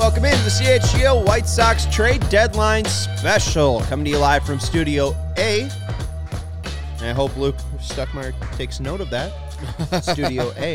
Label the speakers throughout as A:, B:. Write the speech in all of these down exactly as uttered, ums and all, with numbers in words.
A: Welcome into the C H G O White Sox trade deadline special. Coming to you live from Studio A. And I hope Luke Stuckmeyer takes note of that. Studio A.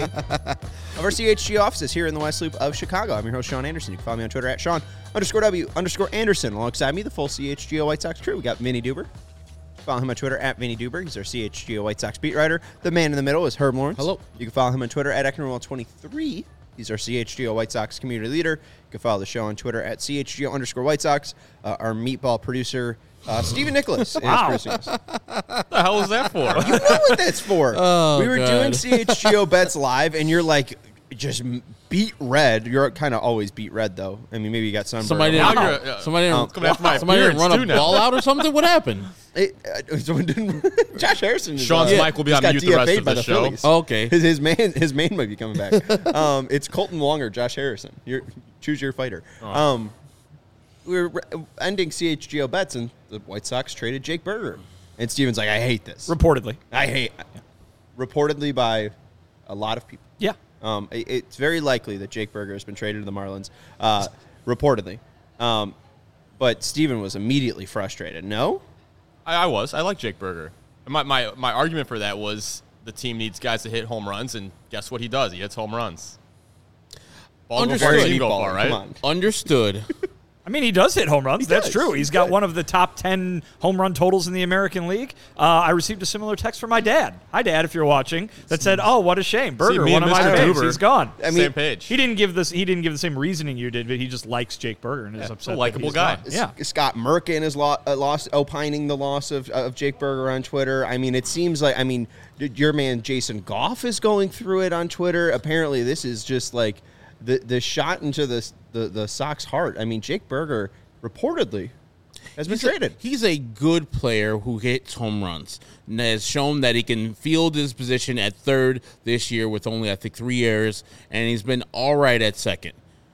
A: Of our C H G O offices here in the West Loop of Chicago. I'm your host, Sean Anderson. You can follow me on Twitter at Sean underscore W underscore Anderson. Alongside me, the full C H G O White Sox crew. We got Vinny Duber. Follow him on Twitter at Vinny Duber. He's our C H G O White Sox beat writer. The man in the middle is Herb Lawrence.
B: Hello.
A: You can follow him on Twitter at Ecknerwell twenty-three. He's our C H G O White Sox community leader. You can follow the show on Twitter at C H G O underscore White Sox. Uh, our meatball producer, uh, Stephen Nicholas.
C: Wow.
A: Is producing us.
C: What the hell was that for?
A: You know what that's for.
B: Oh,
A: we were
B: God.
A: doing C H G O bets live, and you're like, just beat red. You're kind of always beat red, though. I mean, maybe you got sunburned.
B: Somebody
C: Now
B: didn't,
C: you're, uh,
B: somebody didn't,
C: coming after my
B: somebody didn't
C: appearance
B: run
C: too
B: a
C: now.
B: ball out or something? What happened?
A: It, uh, someone didn't, Josh Harrison. Is,
C: Sean's
A: uh,
C: mic will be
A: just
C: on
A: got
C: mute the rest
A: D F A'd
C: of
A: by
C: the
A: the
C: show.
A: Phillies.
B: Oh, okay.
A: His, his man, his man might be coming back. um, it's Colton Wong or Josh Harrison. You're, choose your fighter.
C: Oh.
A: Um, we're re- ending C H G O bets, and the White Sox traded Jake Berger. And Steven's like, I hate this.
C: Reportedly.
A: I hate. Reportedly by a lot of people.
C: Yeah.
A: Um, it, it's very likely that Jake Berger has been traded to the Marlins, uh, reportedly. Um, but Steven was immediately frustrated. No?
C: I, I was. I like Jake Berger. And My, my my argument for that was the team needs guys to hit home runs, and guess what he does? He hits home runs. Ball go
B: Understood.
C: far, team go
A: Meatball,
C: far, right?
A: Come on.
B: Understood.
D: I mean, he does hit home runs.
A: He
D: That's
A: does.
D: true. He's
A: He's
D: got
A: good.
D: one of the top ten home run totals in the American League. Uh, I received a similar text from my dad. Hi, Dad, if you're watching, that said, "Oh, what a shame, Berger,
C: me
D: one
C: and
D: of my
C: Mister
D: faves.
C: Duber,
D: He's gone."
A: I mean,
C: Same page.
D: He didn't give this. He didn't give the same reasoning you did, but he just likes Jake Berger and is
C: Yeah,
D: upset.
C: a
D: that
C: likable
D: he's
C: guy.
D: gone. Yeah.
A: S- Scott Merkin is lo- uh, lost, opining the loss of, of Jake Berger on Twitter. I mean, it seems like, I mean, d- your man Jason Goff is going through it on Twitter. Apparently, this is just like the the shot into the the, the Sox heart. I mean, Jake Berger reportedly has been
B: He's a,
A: traded.
B: he's a good player who hits home runs and has shown that he can field his position at third this year with only, I think, three errors, and he's been all right at second.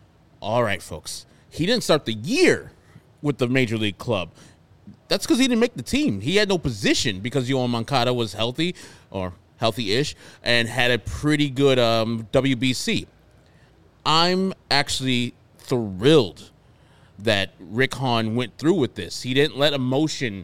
B: All right, folks. He didn't start the year with the Major League club. That's because he didn't make the team. He had no position because Yohan Moncada was healthy or healthy-ish and had a pretty good um, W B C. I'm actually thrilled that Rick Hahn went through with this. He didn't let emotion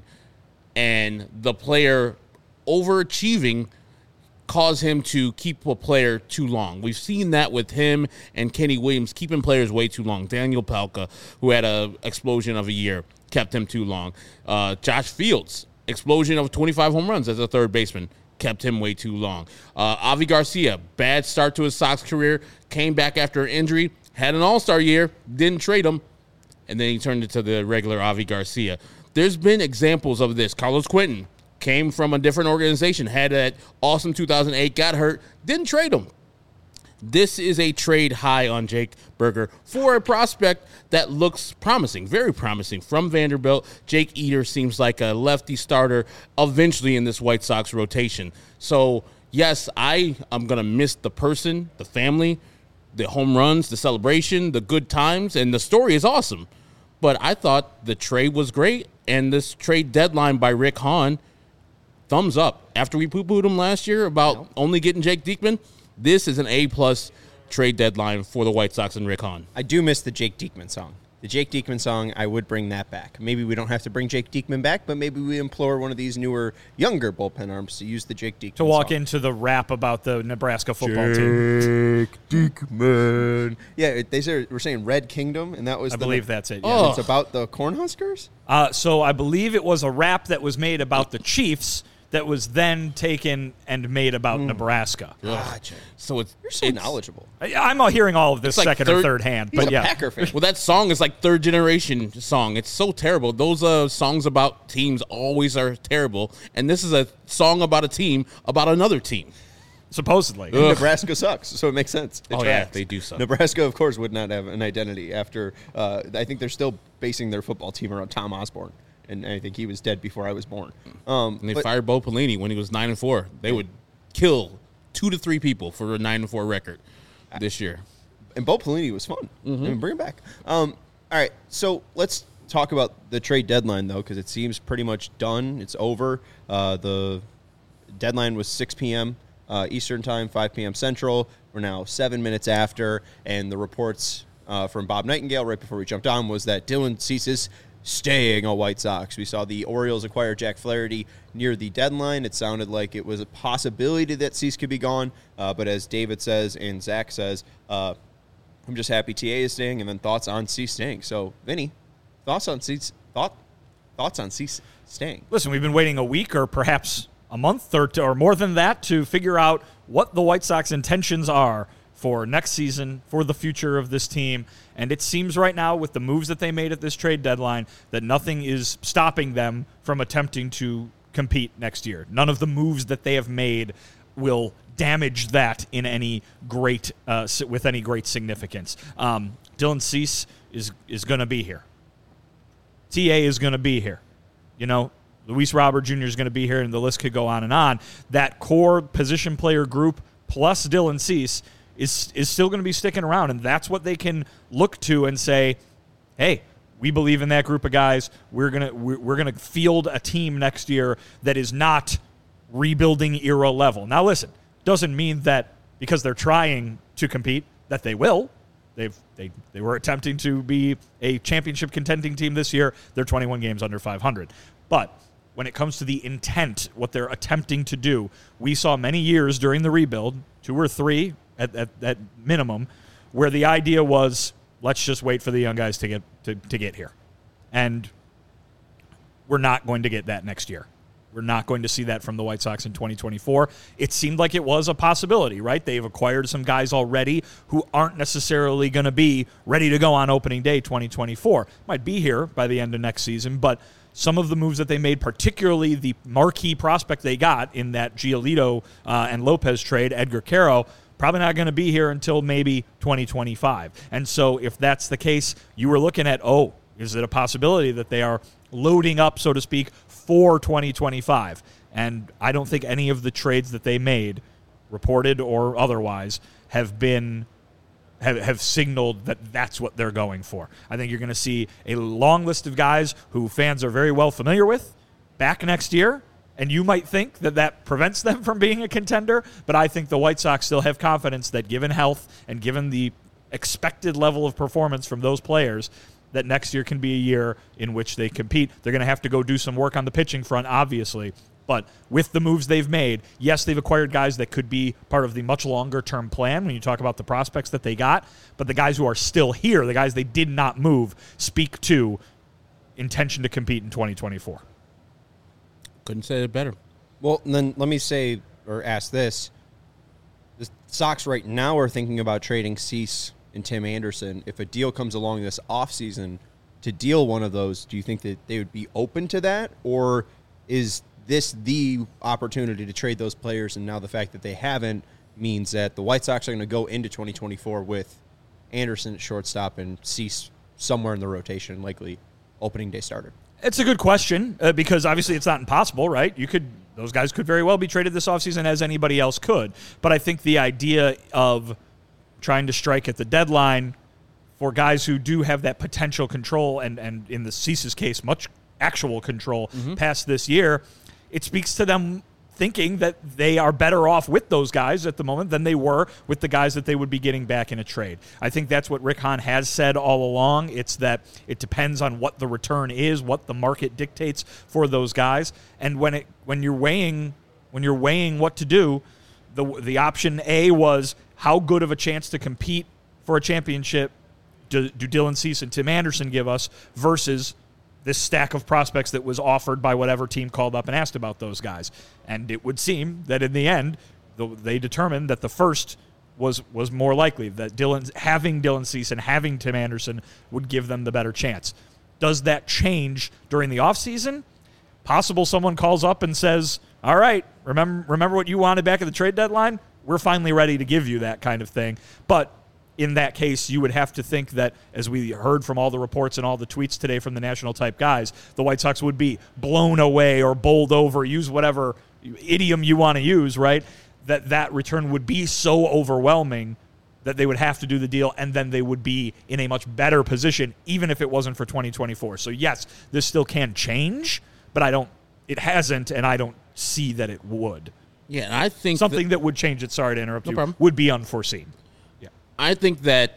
B: and the player overachieving cause him to keep a player too long. We've seen that with him and Kenny Williams keeping players way too long. Daniel Palka, who had an explosion of a year, kept him too long. Uh, Josh Fields, explosion of twenty-five home runs as a third baseman, kept him way too long. Uh, Avi Garcia, bad start to his Sox career, came back after an injury, had an all-star year, didn't trade him, and then he turned into the regular Avi Garcia. There's been examples of this. Carlos Quentin came from a different organization, had that awesome two thousand eight, got hurt, didn't trade him. This is a trade high on Jake Berger for a prospect that looks promising, very promising from Vanderbilt. Jake Eder seems like a lefty starter eventually in this White Sox rotation. So, yes, I am going to miss the person, the family, the home runs, the celebration, the good times, and the story is awesome. But I thought the trade was great, and this trade deadline by Rick Hahn, thumbs up. After we poo-pooed him last year about only getting Jake Diekman, this is an A-plus trade deadline for the White Sox and Rick Hahn.
A: I do miss the Jake Diekman song. The Jake Diekman song, I would bring that back. Maybe we don't have to bring Jake Diekman back, but maybe we implore one of these newer, younger bullpen arms to use the Jake Diekman
D: To walk
A: song.
D: into the rap about the Nebraska football team.
A: Jake Diekman. Yeah, it- they say, we're saying Red Kingdom, and that was
D: I
A: the
D: believe that's it. Yeah.
B: Oh.
A: It's about the Cornhuskers?
D: Uh, so I believe it was a rap that was made about the Chiefs that was then taken and made about Nebraska.
A: Gotcha.
B: So it's
A: You're so
B: it's-
A: knowledgeable.
D: I, I'm all hearing all of this
B: It's like
D: second or
B: third-
D: third hand,
A: He's
D: but
A: a
D: yeah.
A: Packer fan.
B: Well, that song is like third generation song. It's so terrible. Those uh, songs about teams always are terrible, and this is a song about a team about another team.
D: Supposedly.
A: And Nebraska sucks, so it makes sense. It
B: Oh, yeah,
A: tracks.
B: they do suck.
A: Nebraska, of course, would not have an identity after. Uh, I think they're still basing their football team around Tom Osborne, and I think he was dead before I was born. Um,
B: And they
A: but-
B: fired Bo Pelini when he was nine and four. They would kill two to three people for a nine and four record this year.
A: and Bo Pelini was fun. I mean, bring him back. Um, all right, so let's talk about the trade deadline, though, because it seems pretty much done. It's over. Uh, the deadline was six p.m. Uh, Eastern time, five p.m. Central. We're now seven minutes after, and the reports uh, from Bob Nightingale right before we jumped on was that Dylan Cease is staying a White Sox. We saw the Orioles acquire Jack Flaherty near the deadline. It sounded like it was a possibility that Cease could be gone, uh, but as David says and Zach says, uh, I'm just happy T A is staying, and then thoughts on Cease staying. So, Vinny, thoughts on Cease, thought, thoughts on Cease staying?
D: Listen, we've been waiting a week or perhaps a month or, to, or more than that to figure out what the White Sox intentions are for next season, for the future of this team. And it seems right now with the moves that they made at this trade deadline that nothing is stopping them from attempting to compete next year. None of the moves that they have made will damage that in any great uh, with any great significance. Um, Dylan Cease is is going to be here. T A is going to be here. You know, Luis Robert Junior is going to be here, and the list could go on and on. That core position player group plus Dylan Cease is is still going to be sticking around, and that's what they can look to and say, hey, we believe in that group of guys. We're gonna we're, we're gonna field a team next year that is not rebuilding era level. Now, listen, doesn't mean that because they're trying to compete that they will. They've they they were attempting to be a championship contending team this year. They're twenty-one games under five hundred, but when it comes to the intent, what they're attempting to do, we saw many years during the rebuild, two or three at, at, at minimum, where the idea was, let's just wait for the young guys to get to, to get here. And we're not going to get that next year. We're not going to see that from the White Sox in twenty twenty-four. It seemed like it was a possibility, right? They've acquired some guys already who aren't necessarily going to be ready to go on opening day twenty twenty-four. Might be here by the end of next season, but some of the moves that they made, particularly the marquee prospect they got in that Giolito uh, and Lopez trade, Edgar Caro, probably not going to be here until maybe twenty twenty-five. And so if that's the case, you were looking at, oh, is it a possibility that they are loading up, so to speak, for twenty twenty-five? And I don't think any of the trades that they made, reported or otherwise, have been have, have signaled that that's what they're going for. I think you're going to see a long list of guys who fans are very well familiar with back next year, and you might think that that prevents them from being a contender, but I think the White Sox still have confidence that given health and given the expected level of performance from those players, that next year can be a year in which they compete. They're going to have to go do some work on the pitching front, obviously. But with the moves they've made, yes, they've acquired guys that could be part of the much longer-term plan when you talk about the prospects that they got. But the guys who are still here, the guys they did not move, speak to intention to compete in twenty twenty-four.
B: Couldn't say it better.
A: Well, then let me say or ask this. The Sox right now are thinking about trading Cease and Tim Anderson. If a deal comes along this offseason to deal one of those, do you think that they would be open to that? Or is this the opportunity to trade those players, and now the fact that they haven't means that the White Sox are going to go into twenty twenty-four with Anderson at shortstop and Cease somewhere in the rotation, likely opening day starter?
D: It's a good question uh, because obviously it's not impossible, right? You could those guys could very well be traded this offseason as anybody else could. But I think the idea of trying to strike at the deadline for guys who do have that potential control and, and in the Cease's case, much actual control mm-hmm. past this year, it speaks to them thinking that they are better off with those guys at the moment than they were with the guys that they would be getting back in a trade. I think that's what Rick Hahn has said all along. It's that it depends on what the return is, what the market dictates for those guys. And when it when you're weighing when you're weighing what to do, the the option A was how good of a chance to compete for a championship do, do Dylan Cease and Tim Anderson give us versus this stack of prospects that was offered by whatever team called up and asked about those guys. And it would seem that in the end, they determined that the first was was more likely, that Dylan having Dylan Cease and having Tim Anderson would give them the better chance. Does that change during the offseason? Possible someone calls up and says, all right, remember remember what you wanted back at the trade deadline? We're finally ready to give you that kind of thing. But in that case, you would have to think that, as we heard from all the reports and all the tweets today from the national type guys, the White Sox would be blown away or bowled over, use whatever idiom you want to use, right? That that return would be so overwhelming that they would have to do the deal, and then they would be in a much better position, even if it wasn't for twenty twenty-four. So yes, this still can change, but I don't. It hasn't, and I don't see that it would.
B: Yeah, and I think
D: something
B: that,
D: that would change it. Sorry to interrupt
B: no
D: you.
B: Problem.
D: Would be unforeseen.
B: I think that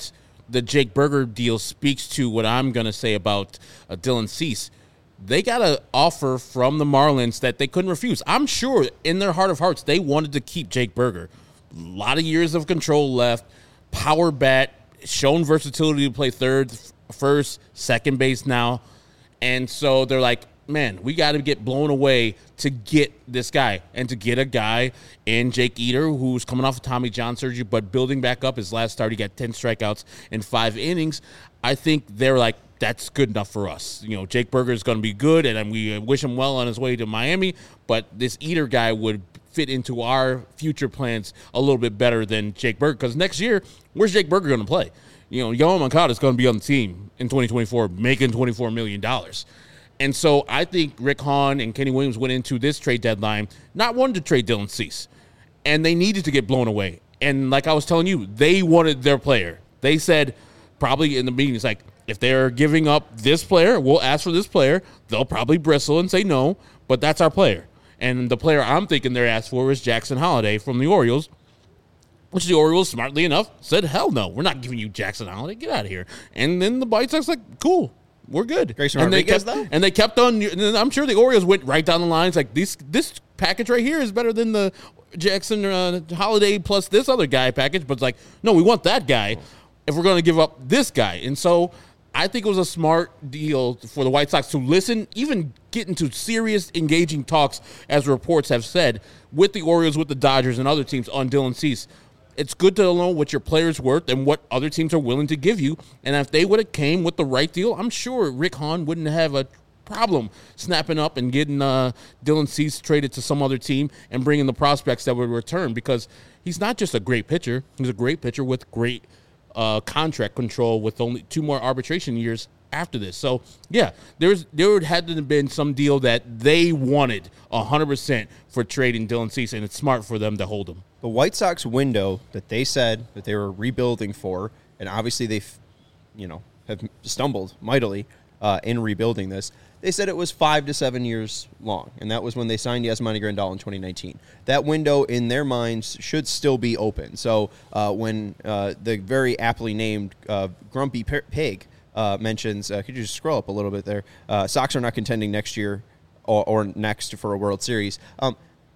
B: the Jake Burger deal speaks to what I'm going to say about uh, Dylan Cease. They got an offer from the Marlins that they couldn't refuse. I'm sure in their heart of hearts they wanted to keep Jake Burger. A lot of years of control left, power bat, shown versatility to play third, first, second base now. And so they're like, man, we got to get blown away to get this guy and to get a guy in Jake Eder who's coming off of Tommy John surgery but building back up. His last start, he got ten strikeouts in five innings. I think they're like, that's good enough for us. You know, Jake Burger is going to be good, and we wish him well on his way to Miami, but this Eder guy would fit into our future plans a little bit better than Jake Burger, because next year, where's Jake Burger going to play? You know, Yoan Moncada is going to be on the team in twenty twenty-four making twenty-four million dollars. And so I think Rick Hahn and Kenny Williams went into this trade deadline not wanting to trade Dylan Cease, and they needed to get blown away. And like I was telling you, they wanted their player. They said probably in the meeting, it's like, if they're giving up this player, we'll ask for this player. They'll probably bristle and say no, but that's our player. And the player I'm thinking they're asked for is Jackson Holliday from the Orioles, which the Orioles, smartly enough, said, hell no, we're not giving you Jackson Holliday. Get out of here. And then the White Sox like, cool, we're good.
A: Grayson
B: and they
A: Rodriguez,
B: kept,
A: though?
B: And they kept on, and I'm sure the Orioles went right down the lines like, this this package right here is better than the Jackson uh, Holliday plus this other guy package. But it's like, no, we want that guy if we're going to give up this guy. And so I think it was a smart deal for the White Sox to listen, even get into serious, engaging talks, as reports have said, with the Orioles, with the Dodgers, and other teams on Dylan Cease. It's good to know what your player's worth and what other teams are willing to give you. And if they would have came with the right deal, I'm sure Rick Hahn wouldn't have a problem snapping up and getting uh, Dylan Cease traded to some other team and bringing the prospects that would return, because he's not just a great pitcher. He's a great pitcher with great Uh, contract control with only two more arbitration years after this. So, yeah, there's there would had to have been some deal that they wanted one hundred percent for trading Dylan Cease, and it's smart for them to hold him.
A: The White Sox window that they said that they were rebuilding for, and obviously they've, you know, have stumbled mightily uh, in rebuilding this. They said it was five to seven years long, and that was when they signed Yasmani Grandal in twenty nineteen. That window, in their minds, should still be open. So uh, when uh, the very aptly named uh, Grumpy Pig uh, mentions, uh, could you just scroll up a little bit there? Uh, Sox are not contending next year or, or next for a World Series. Um,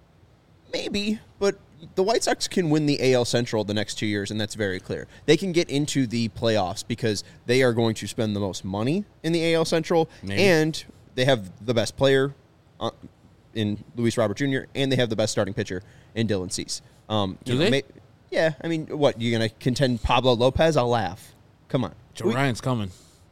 A: maybe, but the White Sox can win the A L Central the next two years, and that's very clear. They can get into the playoffs because they are going to spend the most money in the A L Central, Maybe. and they have the best player uh, in Luis Robert Junior, and they have the best starting pitcher in Dylan Cease. Um,
B: Do
A: you
B: they?
A: Know, may, yeah, I mean, what, you're going to contend Pablo Lopez? I'll laugh. Come on.
B: Joe
A: we,
B: Ryan's coming.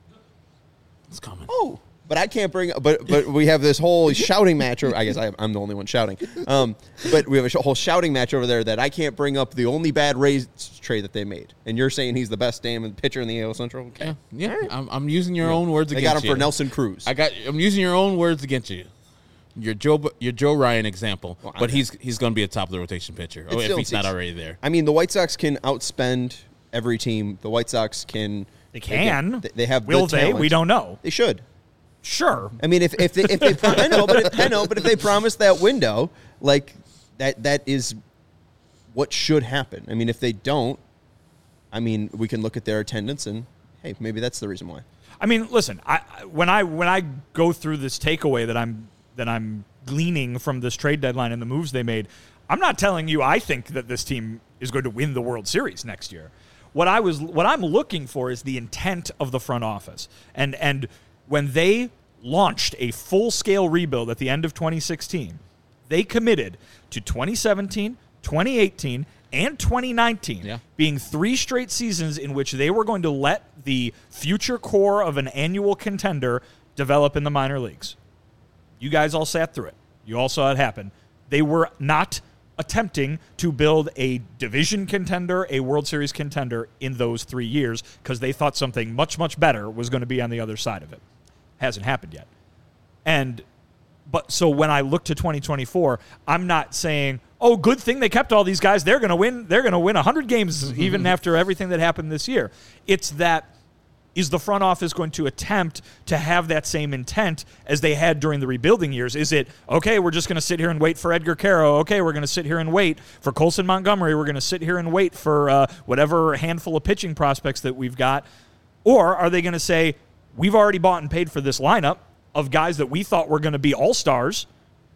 B: It's coming.
A: Oh, but I can't bring. But but we have this whole shouting match. Over, I guess I, I'm the only one shouting. Um, but we have a sh- whole shouting match over there that I can't bring up the only bad Rays trade that they made. And you're saying he's the best damn pitcher in the A L Central? Okay.
B: Yeah, yeah. I'm, I'm using your yeah. own words
A: they
B: against you.
A: They got him for Nelson Cruz.
B: I got. I'm using your own words against you. Your Joe, your Joe Ryan example, well, but he's he's going to be a top of the rotation pitcher. Oh, if he's not already there.
A: I mean, the White Sox can outspend every team. The White Sox can.
D: They can.
A: They, they have.
D: Will
A: the
D: they?
A: talent.
D: We don't know.
A: They should.
D: Sure.
A: I mean, if if they, if they I know, but if, I know, but if they promise that window, like that, that is what should happen. I mean, if they don't, I mean, we can look at their attendance and hey, maybe that's the reason why.
D: I mean, listen, I when I when I go through this takeaway that I'm that I'm gleaning from this trade deadline and the moves they made, I'm not telling you I think that this team is going to win the World Series next year. What I was what I'm looking for is the intent of the front office. And and when they launched a full-scale rebuild at the end of twenty sixteen, they committed to twenty seventeen, twenty eighteen, and twenty nineteen
B: yeah.
D: being three straight seasons in which they were going to let the future core of an annual contender develop in the minor leagues. You guys all sat through it. You all saw it happen. They were not attempting to build a division contender, a World Series contender in those three years because they thought something much, much better was going to be on the other side of it. Hasn't happened yet. And but so when I look to twenty twenty-four, I'm not saying, oh, good thing they kept all these guys. They're going to win. They're going to win one hundred games mm-hmm. even after everything that happened this year. It's that is the front office going to attempt to have that same intent as they had during the rebuilding years? Is it, okay, we're just going to sit here and wait for Edgar Caro. Okay, we're going to sit here and wait for Colson Montgomery. We're going to sit here and wait for uh, whatever handful of pitching prospects that we've got. Or are they going to say, we've already bought and paid for this lineup of guys that we thought were going to be all-stars.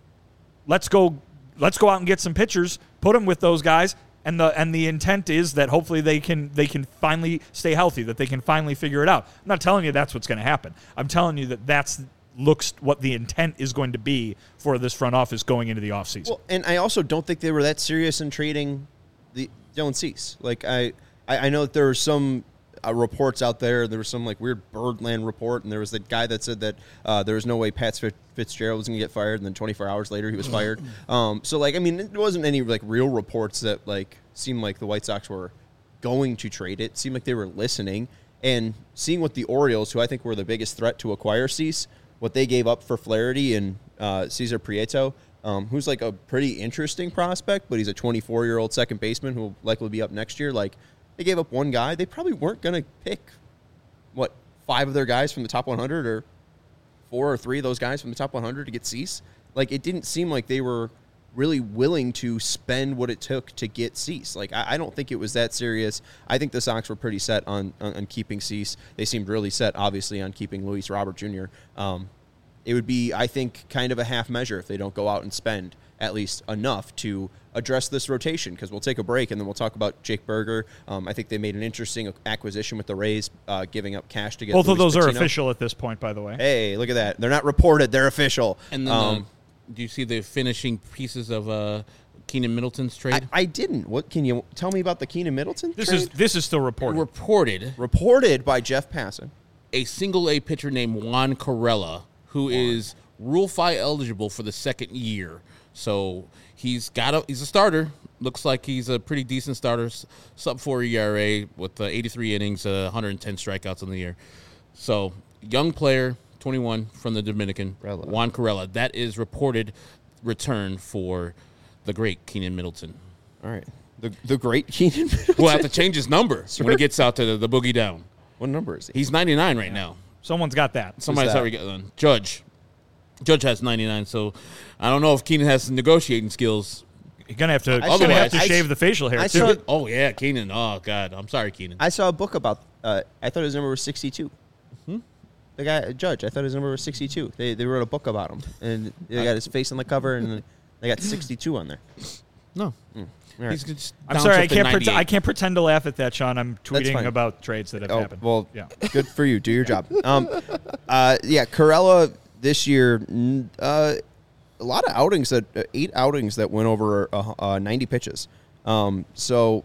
D: Let's go, let's go out and get some pitchers, put them with those guys. And the and the intent is that hopefully they can they can finally stay healthy, that they can finally figure it out. I'm not telling you that's what's going to happen. I'm telling you that that's looks what the intent is going to be for this front office going into the offseason.
A: Well, and I also don't think they were that serious in trading the Dylan Cease. Like I, I, I know that there were some uh, reports out there. There was some like weird Birdland report, and there was the guy that said that uh, there was no way Pat Fitzgerald was going to get fired, and then twenty-four hours later he was fired. Um, so like I mean, it wasn't any like real reports that like seemed like the White Sox were going to trade it. It seemed like they were listening and seeing what the Orioles, who I think were the biggest threat to acquire Cease, what they gave up for Flaherty and uh, Cesar Prieto, um, who's like a pretty interesting prospect, but he's a twenty-four-year-old second baseman who will likely be up next year. Like, they gave up one guy. They probably weren't going to pick, what, five of their guys from the top one hundred or four or three of those guys from the top one hundred to get Cease. Like, it didn't seem like they were really willing to spend what it took to get Cease. Like, I, I don't think it was that serious. I think the Sox were pretty set on, on, on keeping Cease. They seemed really set, obviously, on keeping Luis Robert Junior Um, it would be, I think, kind of a half measure if they don't go out and spend at least enough to address this rotation, because we'll take a break and then we'll talk about Jake Berger. Um, I think they made an interesting acquisition with the Rays, uh, giving up cash to get
D: Both
A: Luis
D: of those
A: Patino.
D: are official at this point, by the way.
A: Hey, look at that. They're not reported. They're official.
B: And then,
A: um,
B: uh, do you see the finishing pieces of uh, Keenan Middleton's
A: I,
B: trade?
A: I didn't. What can you tell me about the Keenan Middleton
D: This
A: trade?
D: is this is still reported.
B: Reported
A: Reported by Jeff Passan.
B: a single A pitcher named Juan Corella, who is Rule Five eligible for the second year. So he's got a he's a starter. Looks like he's a pretty decent starter, sub four E R A with uh, eighty-three innings, uh, one hundred ten strikeouts in the year. So young player, twenty-one from the Dominican,
A: Corella.
B: Juan Corella. That is reported return for the great Keenan Middleton.
A: All right. The the great Keenan Middleton.
B: We'll have to change his number
A: Sure.
B: when he gets out to the, the boogie down.
A: What number is he?
B: He's ninety-nine right now.
D: Someone's got that.
B: Somebody's
A: that?
B: already got one. Judge. Judge has ninety-nine, so I don't know if Keenan has some negotiating skills.
D: You're gonna have to,
A: I
D: you're gonna have to
A: saw- I
D: shave
A: s-
D: the facial hair
A: I
D: too.
A: saw-
B: Oh, yeah, Keenan. Oh, God. I'm sorry, Keenan.
A: I saw a book about. Uh, I thought his number was sixty-two.
B: Hmm?
A: The guy, Judge. I thought his number was sixty-two. They they wrote a book about him, and they got his face on the cover, and they got sixty-two on there.
B: No.
A: All right.
B: He's just
D: I'm
B: down
D: sorry,
B: to
D: I can't. Pre-
B: ninety-eight.
D: I can't pretend to laugh at that, Sean. I'm tweeting
A: fine.
D: about trades that have
A: Oh,
D: happened.
A: well,
D: yeah.
A: good for you. Do your job. Um, uh, yeah, Corella this year, n- uh, a lot of outings that uh, eight outings that went over uh, uh, ninety pitches. Um, so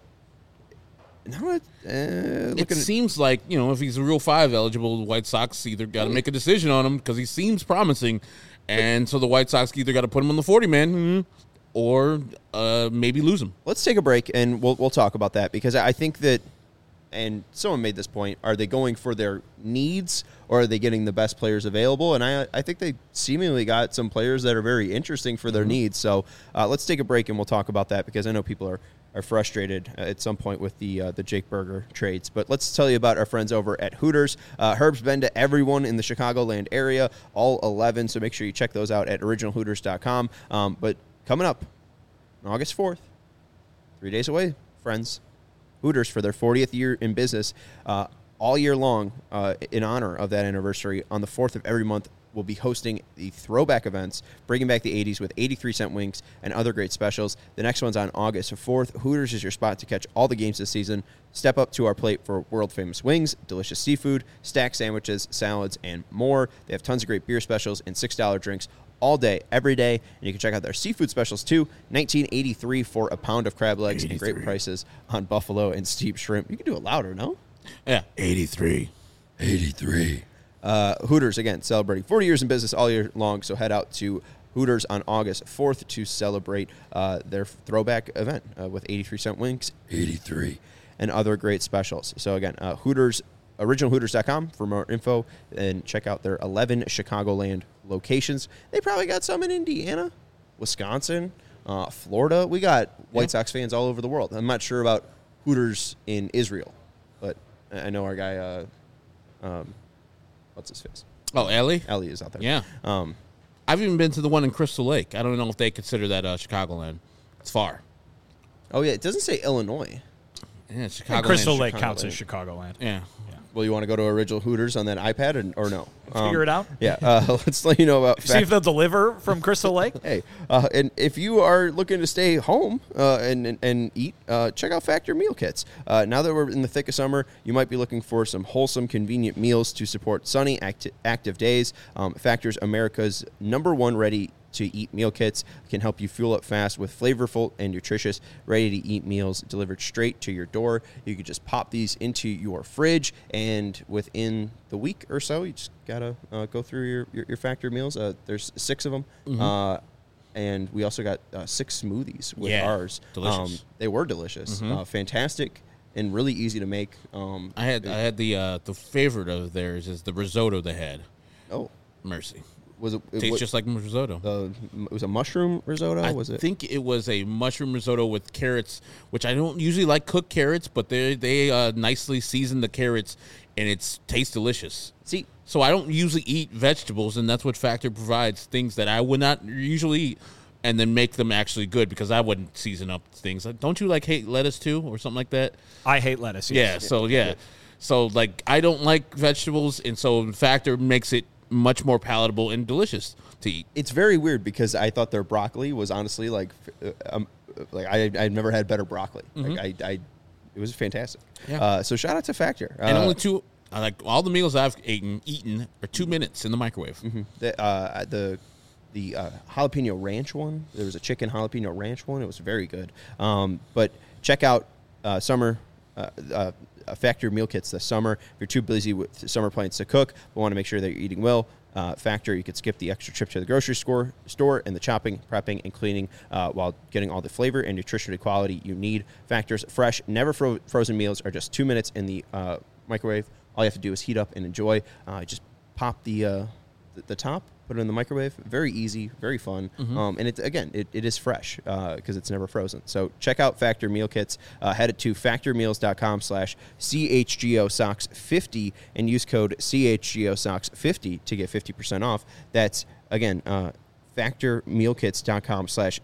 A: now uh,
B: It
A: looking at,
B: seems like, you know, if he's a Rule Five eligible, the White Sox either got to make a decision on him because he seems promising, and so the White Sox either got to put him on the forty-man or uh, maybe lose him.
A: let's take a break and we'll we'll talk about that, because I think that, and someone made this point, are they going for their needs or are they getting the best players available? And I I think they seemingly got some players that are very interesting for their needs. So uh, let's take a break and we'll talk about that, because I know people are, are frustrated uh, at some point with the uh, the Jake Berger trades. But let's tell you about our friends over at Hooters. Uh, Herb's been to everyone in the Chicagoland area, all eleven, so make sure you check those out at original hooters dot com. Um, but coming up on August fourth, three days away, friends, Hooters, for their fortieth year in business, uh, all year long, uh, in honor of that anniversary, on the fourth of every month, we'll be hosting the throwback events, bringing back the eighties with eighty-three cent wings and other great specials. The next one's on August fourth. Hooters is your spot to catch all the games this season. Step up to our plate for world-famous wings, delicious seafood, stack sandwiches, salads, and more. They have tons of great beer specials and six dollar drinks all day, every day. And you can check out their seafood specials, too. nineteen eighty-three for a pound of crab legs and great prices on buffalo and steep shrimp. You can do it louder, no?
B: Yeah, eighty-three.
A: eighty-three. Uh, Hooters, again, celebrating forty years in business all year long, so head out to Hooters on August fourth to celebrate uh, their throwback event uh, with eighty-three cent wings, eighty-three, and other great specials. So, again, uh, Hooters, original hooters dot com for more info, and check out their eleven Chicagoland locations. They probably got some in Indiana, Wisconsin, uh, Florida. We got White Sox fans all over the world. I'm not sure about Hooters in Israel, but I know our guy... Uh, um, what's his face?
B: Oh, Ellie?
A: Ellie is out there.
B: Yeah.
A: Um,
B: I've even been to the one in Crystal Lake. I don't know if they consider that uh, Chicagoland. It's far.
A: oh, yeah. It doesn't say Illinois.
B: Yeah,
D: And
B: Chicagoland.
D: Crystal Lake
A: Chicagoland.
D: counts as Chicagoland.
B: Yeah.
A: Well, you want to go to Original Hooters on that iPad and, or no?
D: Figure
A: Um,
D: it out.
A: Yeah. Uh, let's let you know about
D: See if they'll deliver from Crystal Lake.
A: Hey, uh, and if you are looking to stay home uh, and, and and eat, uh, check out Factor Meal Kits. Uh, now that we're in the thick of summer, you might be looking for some wholesome, convenient meals to support sunny, acti- active days. Um, Factor's America's number one ready to eat meal kits can help you fuel up fast with flavorful and nutritious, ready to eat meals delivered straight to your door. You can just pop these into your fridge, and within the week or so, you just gotta uh, go through your, your, your Factor meals. Uh, there's six of them.
B: Mm-hmm.
A: Uh, and we also got uh, six smoothies with
B: Yeah,
A: ours.
B: delicious.
A: Um, they were delicious,
B: Mhm.
A: uh, fantastic, and really easy to make. Um,
B: I had I had the uh, the favorite of theirs is the risotto they had.
A: oh,
B: Mercy.
A: was it? it
B: Tastes
A: what-
B: just like risotto.
A: uh, it was a mushroom risotto.
B: I
A: was it?
B: think it was a mushroom risotto with carrots, which I don't usually like cooked carrots, but they they uh, nicely season the carrots, and it's tastes delicious.
A: See,
B: So I don't usually eat vegetables, and that's what Factor provides, things that I would not usually eat, and then make them actually good, because I wouldn't season up things. Like, don't you like hate lettuce too, or something like that?
D: I hate lettuce.
B: Yeah,
D: Yes.
B: so yeah. So like I don't like vegetables, and so Factor makes it much more palatable and delicious to eat.
A: it's very weird because I thought their broccoli was honestly like, uh, um, like I I've never had better broccoli. Like I, I, it was fantastic.
B: Yeah.
A: Uh, so shout out to Factor.
B: And
A: Uh,
B: only two, I like all the meals I've eaten, eaten are two minutes in the microwave.
A: The uh, the the uh, jalapeno ranch one. There was a chicken jalapeno ranch one. It was very good. Um, but check out uh, summer uh, uh, Factor meal kits this summer. If you're too busy with summer plans to cook, but want to make sure that you're eating well, uh, Factor, you could skip the extra trip to the grocery store, store and the chopping, prepping, and cleaning uh, while getting all the flavor and nutritional quality you need. Factor's fresh, never fro- frozen meals are just two minutes in the uh, microwave. All you have to do is heat up and enjoy. Uh, just pop the, uh, the the top, put it in the microwave. Very easy, very fun. Um, and it again, it, it is fresh because it's never frozen. So check out Factor meal kits. Uh, head it to factormeals.com slash CHGOSOX50 and use code CHGOSOX50 to get fifty percent off. That's, again, uh, factormealkits.com slash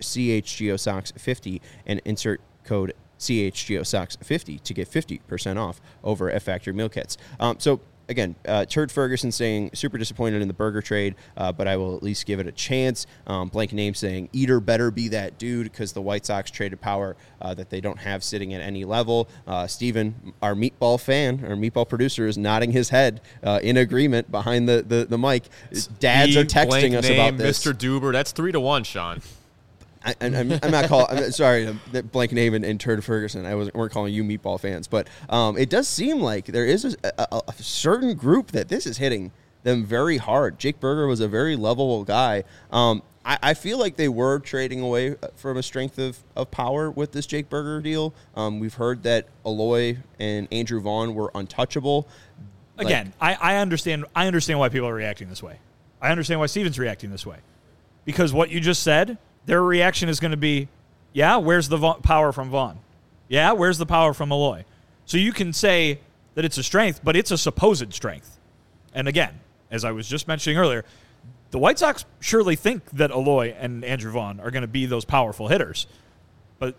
A: CHGOSOX50 and insert code C H G O Sox fifty to get fifty percent off over at Factor Meal Kits. Um, so, again, uh, Turd Ferguson saying super disappointed in the burger trade, uh, but I will at least give it a chance. Um, blank name saying Eater better be that dude because the White Sox traded power uh, that they don't have sitting at any level. Uh, Steven, our meatball fan, our meatball producer, is nodding his head uh, in agreement behind the, the, the mic. Dads
C: E
A: are texting
C: blank
A: us
C: name,
A: about this.
C: Mister Duber. That's three to one, Sean.
A: I, I'm, I'm not calling. I'm sorry, um, that blank name and, and Turd Ferguson. I wasn't weren't calling you meatball fans, but um, it does seem like there is a, a, a certain group that this is hitting them very hard. Jake Berger was a very lovable guy. Um, I, I feel like they were trading away from a strength of, of power with this Jake Berger deal. Um, we've heard that Eloy and Andrew Vaughn were untouchable. Like-
D: Again, I, I understand. I understand why people are reacting this way. I understand why Steven's reacting this way, because what you just said, their reaction is going to be, yeah, where's the Va- power from Vaughn? Yeah, where's the power from Eloy? So you can say that it's a strength, but it's a supposed strength. And again, as I was just mentioning earlier, the White Sox surely think that Eloy and Andrew Vaughn are going to be those powerful hitters. But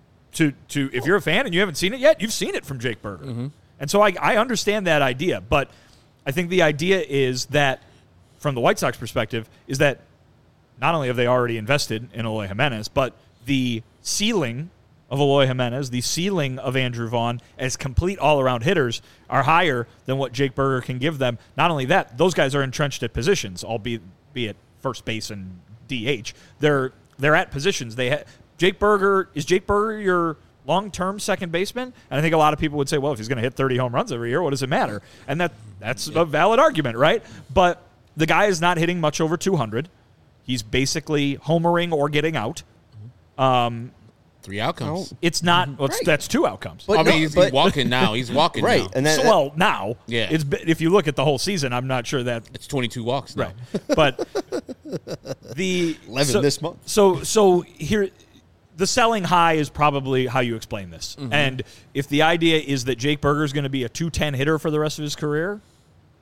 D: to to if you're a fan and you haven't seen it yet, you've seen it from Jake Berger. Mm-hmm. And so I, I understand that idea, but I think the idea is that, from the White Sox perspective, is that not only have they already invested in Eloy Jimenez, but the ceiling of Eloy Jimenez, the ceiling of Andrew Vaughn as complete all-around hitters are higher than what Jake Berger can give them. Not only that, those guys are entrenched at positions, albeit be it first base and D H. They're they're at positions. They ha- Jake Berger is Jake Berger your long-term second baseman? And I think a lot of people would say, well, if he's going to hit thirty home runs every year, what does it matter? And that that's a valid argument, right? But the guy is not hitting much over two hundred. He's basically homering or getting out. Um,
B: Three outcomes.
D: it's not. Well, it's,
A: Right.
D: That's two outcomes.
A: But
B: I mean,
A: no,
B: he's,
A: but-
B: he's walking now. He's walking
A: Right,
B: now.
A: and that,
D: so, well, now,
B: Yeah.
D: It's be- if you look at the whole season, I'm not sure that
B: It's twenty-two walks now.
D: right. But the
A: eleven
D: so,
A: this month.
D: So so here, the selling high is probably how you explain this.
A: Mm-hmm.
D: And if the idea is that Jake Berger is going to be a two ten hitter for the rest of his career,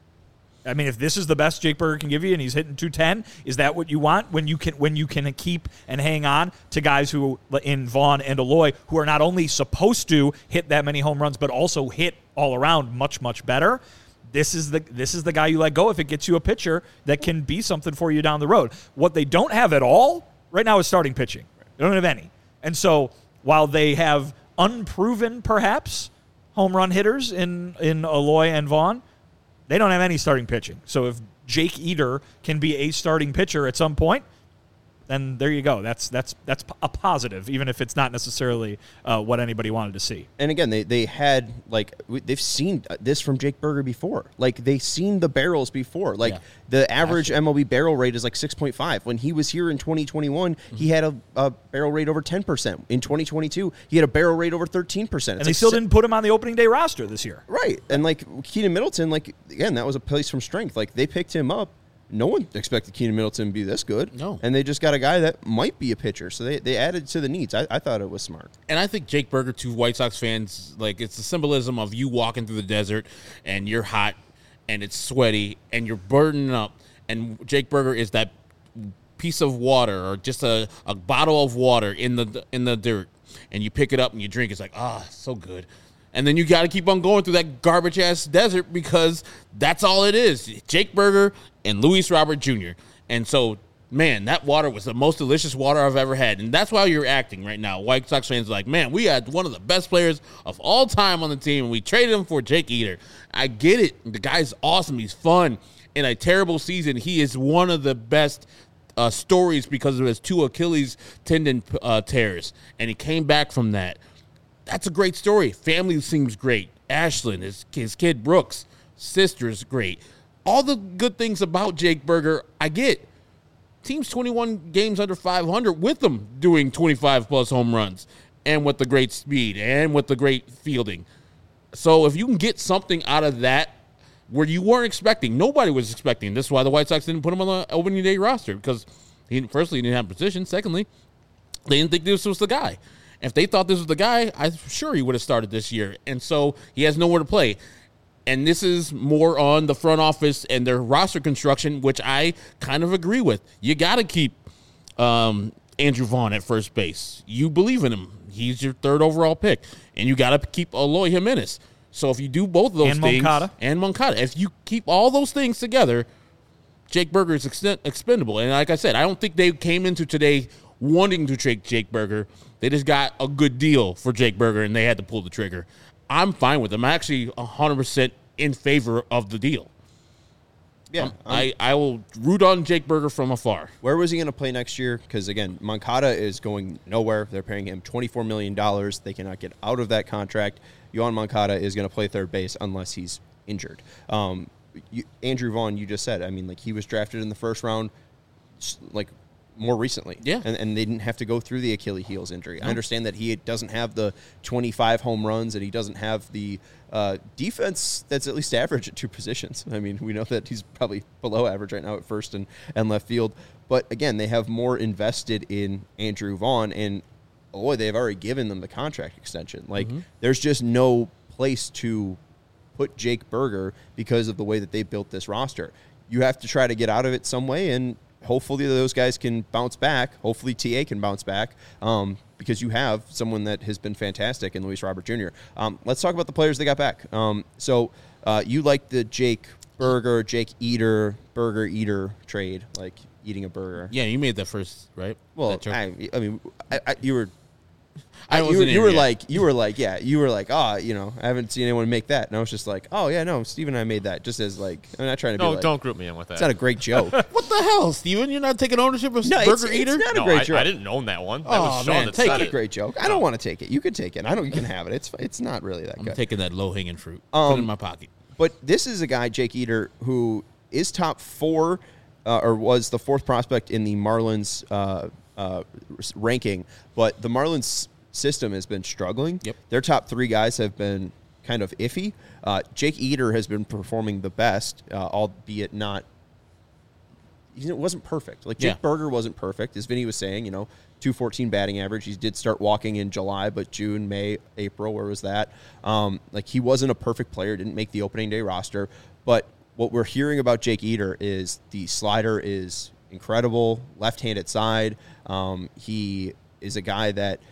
D: I mean, if this is the best Jake Burger can give you, and he's hitting two ten, is that what you want when you can when you can keep and hang on to guys who in Vaughn and Eloy who are not only supposed to hit that many home runs but also hit all around much much better? This is the this is the guy you let go if it gets you a pitcher that can be something for you down the road. What they don't have at all right now is starting pitching. They don't have any, and so while they have unproven perhaps home run hitters in in Eloy and Vaughn, they don't have any starting pitching. So if Jake Eder can be a starting pitcher at some point, then there you go. That's that's that's a positive, even if it's not necessarily uh, what anybody wanted to see.
A: And again, they, they had, like, they've seen this from Jake Burger before. Like, they've seen the barrels before. Like,
B: Yeah.
A: the average M L B barrel rate is like six point five. When he was here in twenty twenty-one, mm-hmm. he had a, a barrel rate over ten percent. In twenty twenty-two, he had a barrel rate over thirteen percent.
D: And they still
A: si-
D: didn't put him on the opening day roster this year.
A: Right. And, like, Keenan Middleton, like, again, that was a place from strength. Like, they picked him up. No one expected Keenan Middleton to be this good.
B: No.
A: And they just got a guy that might be a pitcher. So they, they added to the needs. I, I thought it was smart.
B: And I think Jake Burger, to White Sox fans, like, it's the symbolism of you walking through the desert and you're hot and it's sweaty and you're burning up. And Jake Burger is that piece of water or just a, a bottle of water in the in the dirt. And you pick it up and you drink. It's like, ah, so good. And then you got to keep on going through that garbage-ass desert because that's all it is. Jake Burger and Luis Robert Junior And so, man, that water was the most delicious water I've ever had. And that's why you're acting right now. White Sox fans are like, man, we had one of the best players of all time on the team, and we traded him for Jake Eder. I get it. The guy's awesome. He's fun. In a terrible season, he is one of the best uh, stories because of his two Achilles tendon uh, tears. And he came back from that. That's a great story. Family seems great. Ashlyn, his, his kid Brooks, sister's great. All the good things about Jake Burger, I get. Team's twenty-one games under five hundred with them doing twenty-five plus home runs and with the great speed and with the great fielding. So if you can get something out of that where you weren't expecting, nobody was expecting. This is why the White Sox didn't put him on the opening day roster because, he, firstly, he didn't have position. Secondly, they didn't think this was the guy. If they thought this was the guy, I'm sure he would have started this year. And so he has nowhere to play. And this is more on the front office and their roster construction, which I kind of agree with. You got to keep um, Andrew Vaughn at first base. You believe in him. He's your third overall pick. And you got to keep Eloy Jimenez. So if you do both of those
D: and
B: things.
D: Moncada.
B: And Moncada. If you keep all those things together, Jake Burger is extent, expendable. And like I said, I don't think they came into today wanting to trade Jake Burger. They just got a good deal for Jake Burger, and they had to pull the trigger. I'm fine with them. I'm actually one hundred percent in favor of the deal.
A: Yeah.
B: Um, I, I will root on Jake Burger from afar.
A: Where was he going to play next year? Because, again, Moncada is going nowhere. They're paying him twenty-four million dollars. They cannot get out of that contract. Yohan Moncada is going to play third base unless he's injured. Um, you, Andrew Vaughn, you just said, I mean, like, he was drafted in the first round, like, more recently.
B: Yeah.
A: And, and they didn't have to go through the Achilles heels injury. No. I understand that he doesn't have the twenty-five home runs and he doesn't have the uh, defense that's at least average at two positions. I mean, we know that he's probably below average right now at first and, and left field. But, again, they have more invested in Andrew Vaughn, and, boy, they've already given them the contract extension. Like, mm-hmm. there's just no place to put Jake Burger because of the way that they built this roster. You have to try to get out of it some way, and hopefully those guys can bounce back. Hopefully T A can bounce back um, because you have someone that has been fantastic in Luis Robert Junior Um, let's talk about the players they got back. Um, so uh, you like the Jake Burger, Jake Eder, Burger Eater trade, like eating a burger.
B: Yeah, you made that first, right?
A: Well, I, I mean, I, I, you were...
B: I
A: you
B: wasn't
A: were,
B: in
A: you were
B: yet.
A: like, you were like, yeah, you were like, ah, oh, you know, I haven't seen anyone make that. And I was just like, oh, yeah, no, Steve and I made that just as like, I'm not trying to
C: No,
A: be like,
C: don't group me in with that.
A: it's not a great joke.
B: What the hell, Steven? You're not taking ownership of
A: No,
B: Burger
A: it's- it's
B: Eater?
A: not a
C: no,
A: great
C: I,
A: joke.
C: I didn't own that one. That
B: Oh,
C: was Sean
B: man,
C: that
B: take
C: said
A: Not a
B: it.
A: great joke. I don't want to take it. You can take it. I don't. You can have it. It's it's not really that
B: I'm
A: good.
B: taking that low-hanging fruit.
A: Um,
B: Put it in my pocket.
A: But this is a guy, Jake Eder, who is top four, uh, or was the fourth prospect in the Marlins uh, uh, ranking. But the Marlins system has been struggling.
B: Yep.
A: Their top three guys have been kind of iffy. Uh, Jake Eder has been performing the best, uh, albeit not. It wasn't perfect. Like Jake
B: Yeah.
A: Burger wasn't perfect, as Vinny was saying. You know, two fourteen batting average. He did start walking in July, but June, May, April, where was that? Um, like he wasn't a perfect player. Didn't make the opening day roster. But what we're hearing about Jake Eder is the slider is incredible, left-handed side. Um, he is a guy that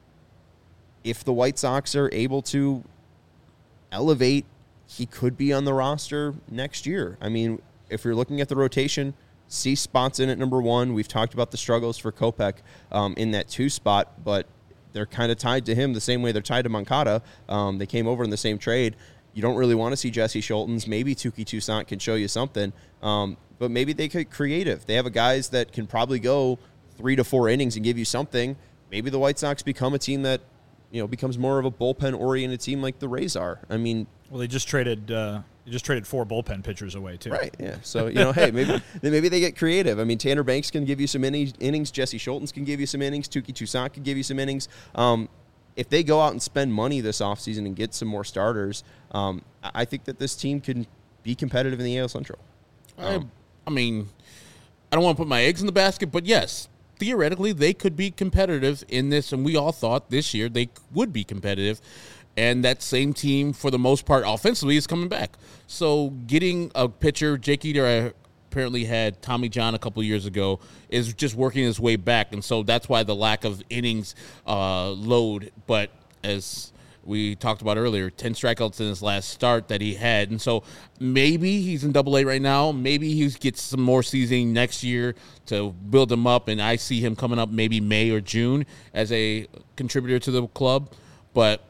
A: if the White Sox are able to elevate, he could be on the roster next year. I mean, if you're looking at the rotation, Cease spots in at number one. We've talked about the struggles for Kopech um, in that two spot, but they're kind of tied to him the same way they're tied to Moncada. Um, they came over in the same trade. You don't really want to see Jesse Schultens. Maybe Touki Toussaint can show you something, um, but maybe they could creative. They have a guys that can probably go three to four innings and give you something. Maybe the White Sox become a team that, you know, becomes more of a bullpen-oriented team like the Rays are. I mean,
D: well, they just traded uh, they just traded four bullpen pitchers away too.
A: Right. Yeah. So you know, hey, maybe maybe they get creative. I mean, Tanner Banks can give you some innings. innings. Jesse Schultens can give you some innings. Touki Toussaint can give you some innings. Um, if they go out and spend money this offseason and get some more starters, um, I think that this team can be competitive in the A L Central.
B: Um, I, I mean, I don't want to put my eggs in the basket, but yes, theoretically they could be competitive in this, and we all thought this year they would be competitive. And that same team, for the most part, offensively, is coming back. So getting a pitcher, Jake Eder apparently had Tommy John a couple years ago, is just working his way back. And so that's why the lack of innings uh, load. But as we talked about earlier, ten strikeouts in his last start that he had. And so maybe he's in double A right now. Maybe he gets some more seasoning next year to build him up. And I see him coming up maybe May or June as a contributor to the club. But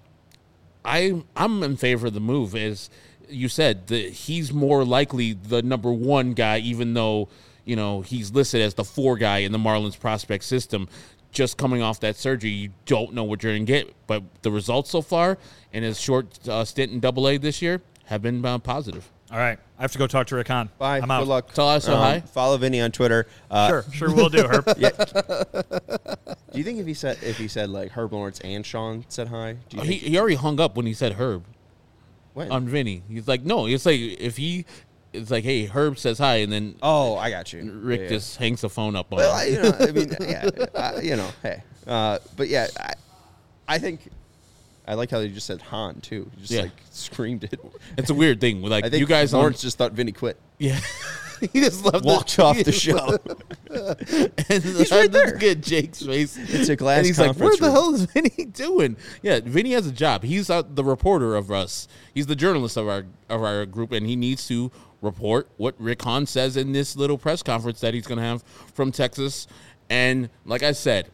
B: I, I'm in favor of the move. As you said, the, he's more likely the number one guy, even though, you know, he's listed as the four guy in the Marlins prospect system. Just coming off that surgery, you don't know what you're going to get. But the results so far in his short uh, stint in double A this year have been uh, positive.
D: All right. I have to go talk to Rick Hahn.
A: Bye.
D: I'm out.
A: Good luck.
B: Tell us so
A: Um,
B: hi.
A: Follow Vinny on Twitter. Uh,
D: Sure, sure will do, Herb.
A: Yeah. Do you think if he said if he said like Herb Lawrence and Sean said hi? Do you
B: He,
A: think
B: he already hung up when he said Herb
A: when?
B: on Vinny. He's like, no, it's like if he, it's like, hey, Herb says hi, and then
A: oh, I got you.
B: Rick
A: Yeah, yeah.
B: just hangs the phone up on
A: Well, I,
B: him.
A: you know, I mean, yeah, uh, you know, hey, uh, but yeah, I, I think I like how you just said Han too. You just
B: Yeah.
A: like screamed it.
B: It's a weird thing. Like
A: I think
B: you guys on,
A: Lawrence just thought Vinny quit.
B: yeah, he just left
A: Walked
B: the,
A: off the show.
B: and
A: He's right there.
B: Good Jake's face.
A: It's a glass
B: And he's like,
A: conference
B: "What the
A: room."
B: hell is Vinny doing?" Yeah, Vinny has a job. He's uh, the reporter of us. He's the journalist of our of our group, and he needs to report what Rick Hahn says in this little press conference that he's going to have from Texas. And like I said,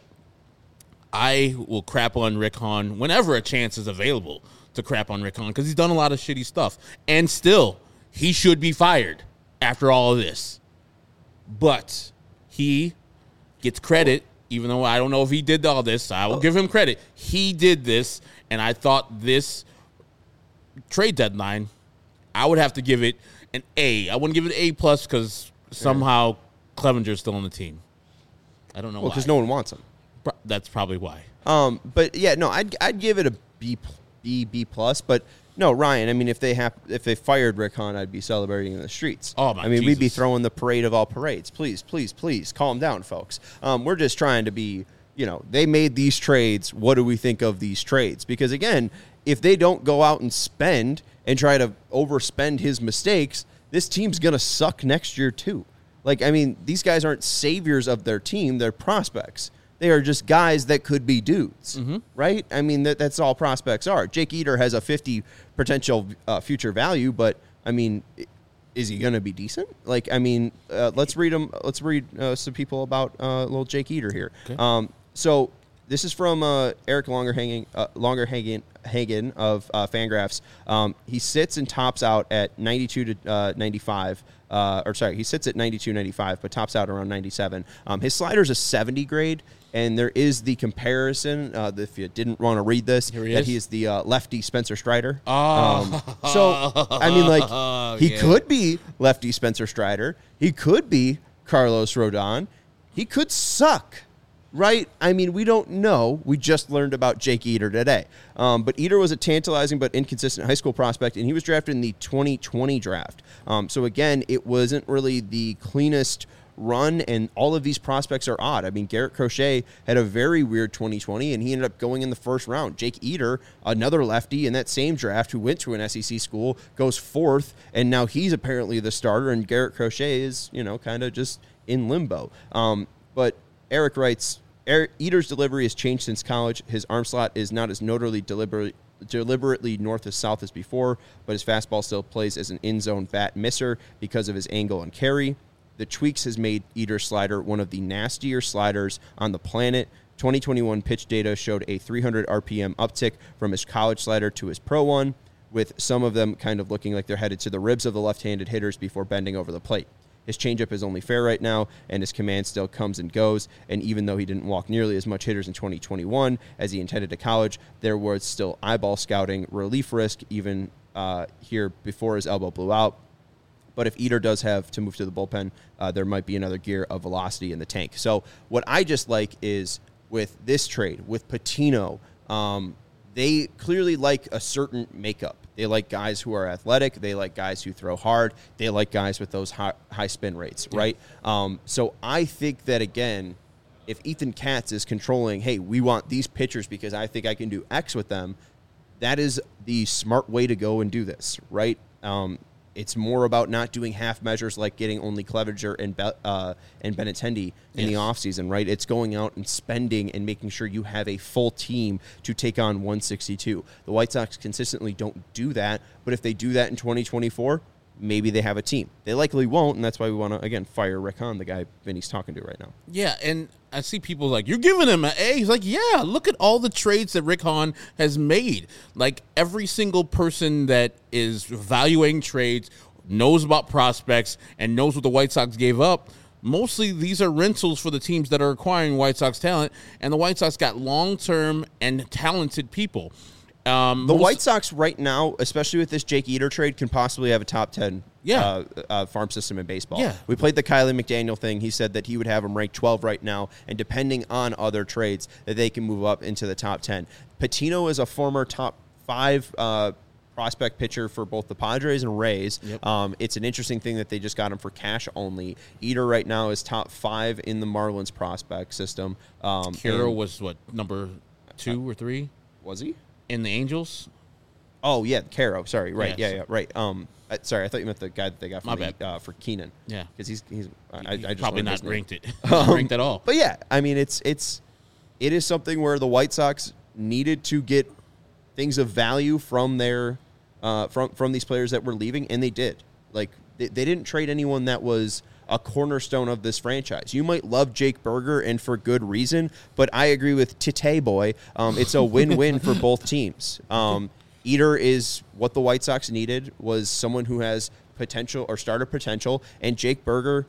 B: I will crap on Rick Hahn whenever a chance is available to crap on Rick Hahn because he's done a lot of shitty stuff. And still, he should be fired after all of this. But he gets credit, even though I don't know if he did all this. I will give him credit. He did this, and I thought this trade deadline, I would have to give it an A. I wouldn't give it an A plus because somehow Clevenger's still on the team. I don't know
A: Well,
B: why.
A: because no one wants him.
B: Pro- That's probably why.
A: Um, but yeah, no, I'd I'd give it a B, B, B plus. But no, Ryan. I mean, if they have if they fired Rick Hahn, I'd be celebrating in the streets.
B: Oh, my
A: I mean, we'd be
B: Jesus.
A: throwing the parade of all parades. Please, please, please, calm down, folks. Um, we're just trying to be. You know, they made these trades. What do we think of these trades? Because again, if they don't go out and spend and try to overspend his mistakes, this team's gonna suck next year too. Like, I mean, these guys aren't saviors of their team. They're prospects. They are just guys that could be dudes,
B: Mm-hmm.
A: right? I mean, that, that's all prospects are. Jake Eder has a fifty potential uh, future value, but, I mean, i- is he going to be decent? Like, I mean, uh, let's read them. Let's read uh, some people about uh, little Jake Eder here.
B: Okay.
A: Um, so this is from uh, Eric Longerhagen, uh, Longerhagen Hagen of uh, Fangraphs. Um, he sits and tops out at ninety-two to uh, ninety-five. Uh, or sorry, he sits at ninety-two, ninety-five, but tops out around ninety-seven. Um, his slider's a seventy grade, and there is the comparison, uh, if you didn't want to read this,
B: Here he
A: that
B: is.
A: he is the uh, lefty Spencer Strider.
B: Oh.
A: Um, so, I mean, like, he
B: Yeah.
A: could be lefty Spencer Strider. He could be Carlos Rodon. He could suck. Right? I mean, we don't know. We just learned about Jake Eder today. Um, but Eder was a tantalizing but inconsistent high school prospect, and he was drafted in the twenty twenty draft. Um, so, again, it wasn't really the cleanest run, and all of these prospects are odd. I mean, Garrett Crochet had a very weird twenty twenty, and he ended up going in the first round. Jake Eder, another lefty in that same draft who went to an S E C school, goes fourth, and now he's apparently the starter, and Garrett Crochet is, you know, kind of just in limbo. Um, but Eric writes, Eder's delivery has changed since college. His arm slot is not as notably deliberate, deliberately north of south as before, but his fastball still plays as an in-zone bat misser because of his angle and carry. The tweaks has made Eder's slider one of the nastier sliders on the planet. twenty twenty-one pitch data showed a three hundred R P M uptick from his college slider to his pro one, with some of them kind of looking like they're headed to the ribs of the left-handed hitters before bending over the plate. His changeup is only fair right now, and his command still comes and goes. And even though he didn't walk nearly as much hitters in twenty twenty-one as he intended to college, there was still eyeball scouting, relief risk, even uh, here before his elbow blew out. But if Eder does have to move to the bullpen, uh, there might be another gear of velocity in the tank. So what I just like is with this trade, with Patino, um, they clearly like a certain makeup. They like guys who are athletic. They like guys who throw hard. They like guys with those high, high spin rates, yeah. right? Um, so I think that, again, if Ethan Katz is controlling, hey, we want these pitchers because I think I can do X with them, that is the smart way to go and do this, right? Um, it's more about not doing half measures like getting only Clevenger and Be- uh, and Benintendi in yes. the offseason, right? It's going out and spending and making sure you have a full team to take on one sixty-two. The White Sox consistently don't do that, but if they do that in twenty twenty-four, maybe they have a team. They likely won't, and that's why we want to, again, fire Rick Hahn, the guy Vinny's talking to right now.
B: Yeah, and I see people like, you're giving him an A. He's like, yeah, look at all the trades that Rick Hahn has made. Like, every single person that is evaluating trades knows about prospects and knows what the White Sox gave up. Mostly these are rentals for the teams that are acquiring White Sox talent, and the White Sox got long-term and talented people. Um,
A: the
B: most,
A: White Sox right now, especially with this Jake Eder trade, can possibly have a top ten
B: yeah.
A: uh, uh, farm system in baseball.
B: Yeah.
A: We played the Kylie McDaniel thing. He said that he would have him ranked twelve right now, and depending on other trades, that they can move up into the top ten. Patino is a former top five uh, prospect pitcher for both the Padres and Rays.
B: Yep.
A: Um, it's an interesting thing that they just got him for cash only. Eder right now is top five in the Marlins prospect system. Um,
B: Caro was, what, number two or three?
A: Was he?
B: In the Angels?
A: Oh, yeah, Caro. Sorry, right.
B: Yeah,
A: Yeah, yeah, right. Um, I, sorry, I thought you meant the guy that they got
B: My
A: for,
B: bad.
A: the, uh, for Keenan.
B: Yeah.
A: Because he's, he's I, I just
B: probably
A: learned
B: not
A: his name.
B: ranked it.
A: Um,
B: ranked at all.
A: But, yeah, I mean, it's it's it is something where the White Sox needed to get things of value from their uh, from, from these players that were leaving, and they did. Like, they, they didn't trade anyone that was a cornerstone of this franchise. You might love Jake Burger, and for good reason, but I agree with Tite Boy. Um, it's a win-win for both teams. Um, Eder is what the White Sox needed, was someone who has potential or starter potential, and Jake Burger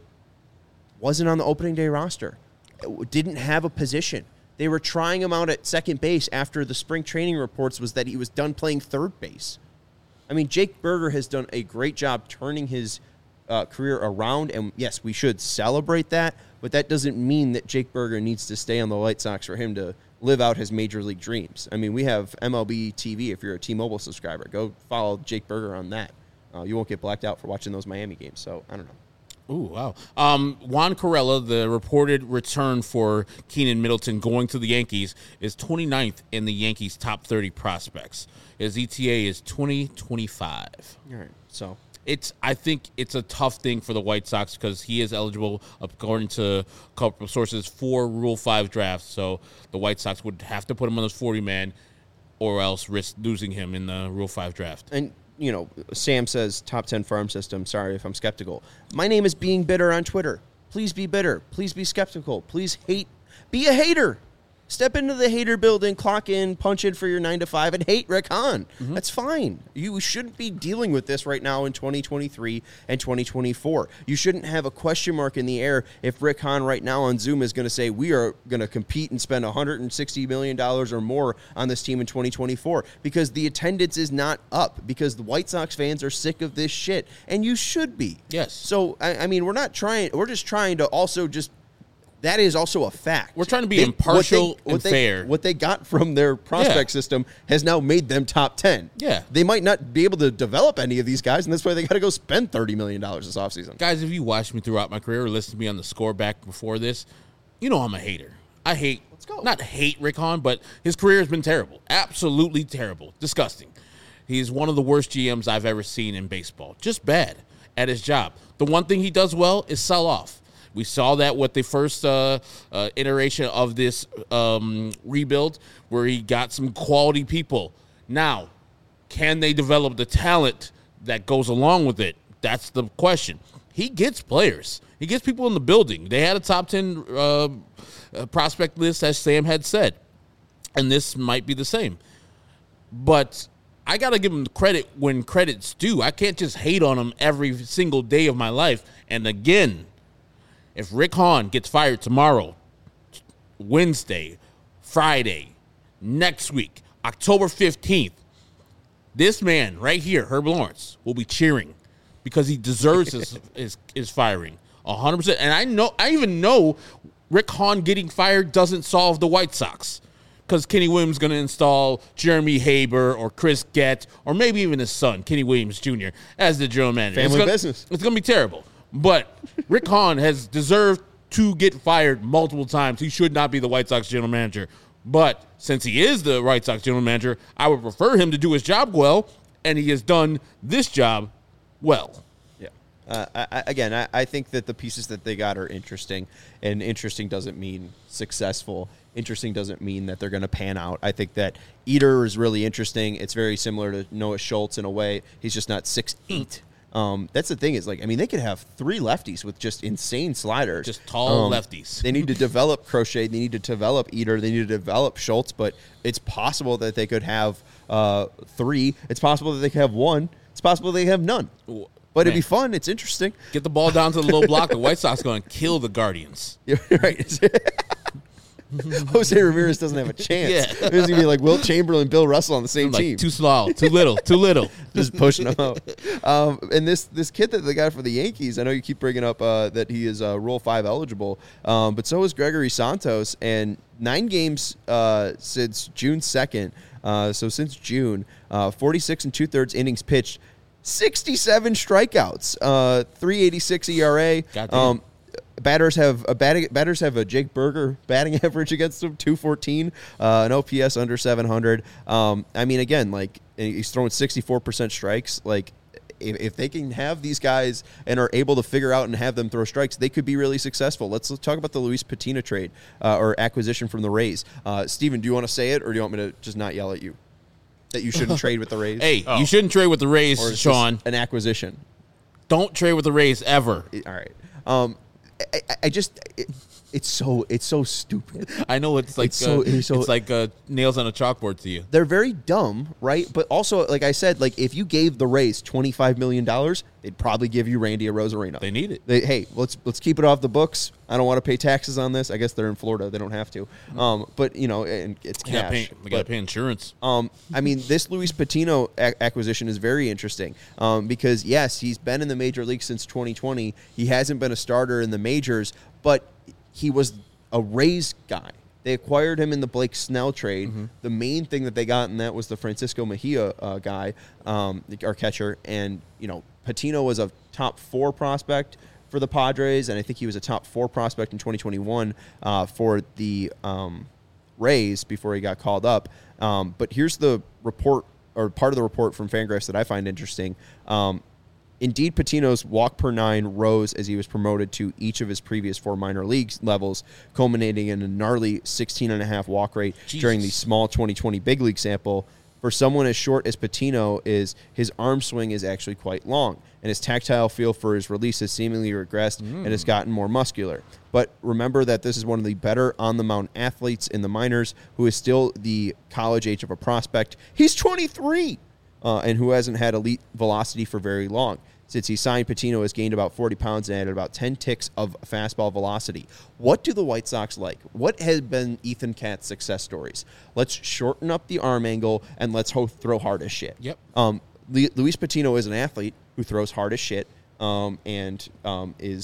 A: wasn't on the opening day roster, didn't have a position. They were trying him out at second base after the spring training reports was that he was done playing third base. I mean, Jake Burger has done a great job turning his Uh, career around, and yes, we should celebrate that, but that doesn't mean that Jake Burger needs to stay on the White Sox for him to live out his major league dreams. I mean, we have M L B T V if you're a T-Mobile subscriber. Go follow Jake Burger on that. Uh, you won't get blacked out for watching those Miami games, so I don't know.
B: Ooh, wow. Um, Juan Corella, the reported return for Keenan Middleton going to the Yankees, is twenty-ninth in the Yankees' top thirty prospects. His E T A is twenty twenty-five.
A: All right, so...
B: It's. I think it's a tough thing for the White Sox because he is eligible, according to a couple of sources, for Rule five drafts. So the White Sox would have to put him on those forty-man or else risk losing him in the Rule five draft.
A: And, you know, Sam says top ten farm system. Sorry if I'm skeptical. My name is Being Bitter on Twitter. Please be bitter. Please be skeptical. Please hate. Be a hater. Step into the hater building, clock in, punch in for your nine to five, and hate Rick Hahn. Mm-hmm. That's fine. You shouldn't be dealing with this right now in twenty twenty-three and twenty twenty-four. You shouldn't have a question mark in the air if Rick Hahn right now on Zoom is going to say we are going to compete and spend one hundred sixty million dollars or more on this team in twenty twenty-four because the attendance is not up because the White Sox fans are sick of this shit, and you should be.
B: Yes.
A: So, I, I mean, we're not trying. We're just trying to also just that is also a fact.
B: We're trying to be impartial
A: what they, what
B: and
A: they,
B: fair.
A: What they got from their prospect
B: Yeah.
A: system has now made them top ten.
B: Yeah.
A: They might not be able to develop any of these guys, and that's why they got to go spend thirty million dollars this offseason.
B: Guys, if you watched me throughout my career or listened to me on the score back before this, you know I'm a hater. I hate,
A: Let's go.
B: not hate Rick Hahn, but his career has been terrible. Absolutely terrible. Disgusting. He's one of the worst G Ms I've ever seen in baseball. Just bad at his job. The one thing he does well is sell off. We saw that with the first uh, uh, iteration of this um, rebuild where he got some quality people. Now, can they develop the talent that goes along with it? That's the question. He gets players. He gets people in the building. They had a top ten uh, uh, prospect list, as Sam had said, and this might be the same. But I got to give him credit when credit's due. I can't just hate on him every single day of my life. And again, if Rick Hahn gets fired tomorrow, Wednesday, Friday, next week, October fifteenth, this man right here, Herb Lawrence, will be cheering because he deserves his, his, his firing one hundred percent. And I know, I even know Rick Hahn getting fired doesn't solve the White Sox because Kenny Williams is going to install Jeremy Haber or Chris Gett or maybe even his son, Kenny Williams Junior, as the general manager.
A: Family
B: it's gonna,
A: business.
B: It's going to be terrible. But Rick Hahn has deserved to get fired multiple times. He should not be the White Sox general manager. But since he is the White Sox general manager, I would prefer him to do his job well, and he has done this job well.
A: Yeah. Uh, I, I, again, I, I think that the pieces that they got are interesting, and interesting doesn't mean successful. Interesting doesn't mean that they're going to pan out. I think that Eater is really interesting. It's very similar to Noah Schultz in a way. He's just not six eight. Um, that's the thing is, like, I mean, they could have three lefties with just insane sliders.
B: Just tall
A: Um,
B: lefties.
A: They need to develop Crochet. They need to develop Eater. They need to develop Schultz. But it's possible that they could have uh, three. It's possible that they could have one. It's possible they have none. But it'd be fun. It's interesting.
B: Get the ball down to the low block. The White Sox going to kill the Guardians.
A: Yeah, right. Jose Ramirez doesn't have a chance.
B: Yeah.
A: It's going to be like Wilt Chamberlain, Bill Russell on the same
B: Like
A: team.
B: too small, too little, too little.
A: Just pushing them out. Um, and this this kid that they got for the Yankees, I know you keep bringing up uh, that he is uh, Rule five eligible, um, but so is Gregory Santos. And nine games uh, since June second, uh, so since June, uh, forty-six and two-thirds innings pitched, sixty-seven strikeouts, uh, three eighty-six E R A.
B: Goddamn.
A: Um, Batters have a batting, batters have a Jake Berger batting average against them, two fourteen, uh, an O P S under seven hundred. Um, I mean, again, like he's throwing sixty-four percent strikes. Like if, if they can have these guys and are able to figure out and have them throw strikes, they could be really successful. Let's, let's talk about the Luis Patino trade uh, or acquisition from the Rays. Uh, Steven, do you want to say it or do you want me to just not yell at you that you shouldn't trade with the Rays?
B: Hey,
C: Oh.
B: you shouldn't trade with the Rays,
A: or is this
B: Sean.
A: an acquisition?
B: Don't trade with the Rays ever.
A: All right. Um, I, I- I just it, it's so it's so stupid.
B: I know it's like
A: It's so-
B: uh,
A: it's so-
B: it's like uh, nails on a chalkboard to you.
A: They're very dumb, right? But also, like I said, like if you gave the Rays twenty-five million dollars, they'd probably give you Randy Arozarena.
B: They need it.
A: They, hey, let's let's keep it off the books. I don't want to pay taxes on this. I guess they're in Florida; they don't have to. Um, but you know, and it's
B: They got
A: cash.
B: pay, they got to
A: But,
B: pay insurance.
A: um, I mean, this Luis Patino a- acquisition is very interesting um, because, yes, he's been in the major league since twenty twenty. He hasn't been a starter in the majors, but he was a Rays guy. They acquired him in the Blake Snell trade.
B: Mm-hmm.
A: The main thing that they got in that was the Francisco Mejia uh, guy, um, our catcher. And, you know, Patino was a top four prospect for the Padres, and I think he was a top four prospect in twenty twenty-one uh, for the um, Rays before he got called up. Um, but here's the report, or part of the report from Fangraphs that I find interesting. Um, Indeed, Patino's walk per nine rose as he was promoted to each of his previous four minor league levels, culminating in a gnarly sixteen and a half walk rate
B: Jesus.
A: during the small twenty twenty big league sample. For someone as short as Patino is, his arm swing is actually quite long, and his tactile feel for his release has seemingly regressed and has gotten more muscular. But remember that this is one of the better on-the-mound athletes in the minors who is still the college age of a prospect. He's twenty-three, uh, and who hasn't had elite velocity for very long. Since he signed, Patino has gained about forty pounds and added about ten ticks of fastball velocity. What do the White Sox like? What has been Ethan Katz's success stories? Let's shorten up the arm angle and let's ho- throw hard as shit.
B: Yep.
A: Um, Le- Luis Patino is an athlete who throws hard as shit um, and um, is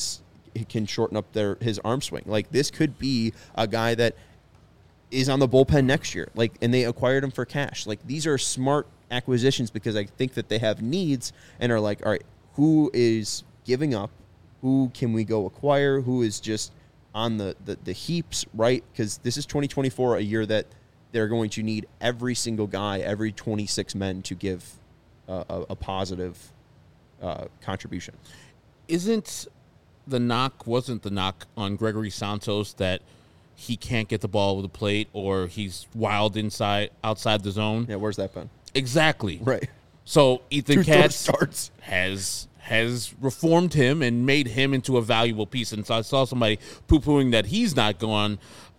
A: can shorten up their his arm swing. Like this could be a guy that is on the bullpen next year. Like, and they acquired him for cash. Like these are smart acquisitions because I think that they have needs and are like, all right, who is giving up? Who can we go acquire? Who is just on the, the, the heaps, right? Because this is twenty twenty-four, a year that they're going to need every single guy, every twenty-six men to give uh, a, a positive uh, contribution.
B: Isn't the knock, wasn't the knock on Gregory Santos that he can't get the ball over the plate or he's wild inside, outside the zone?
A: Yeah, where's that been?
B: Exactly.
A: Right.
B: So Ethan
A: Two
B: Katz
A: starts.
B: has has reformed him and made him into a valuable piece. And so I saw somebody poo-pooing that he's not gone.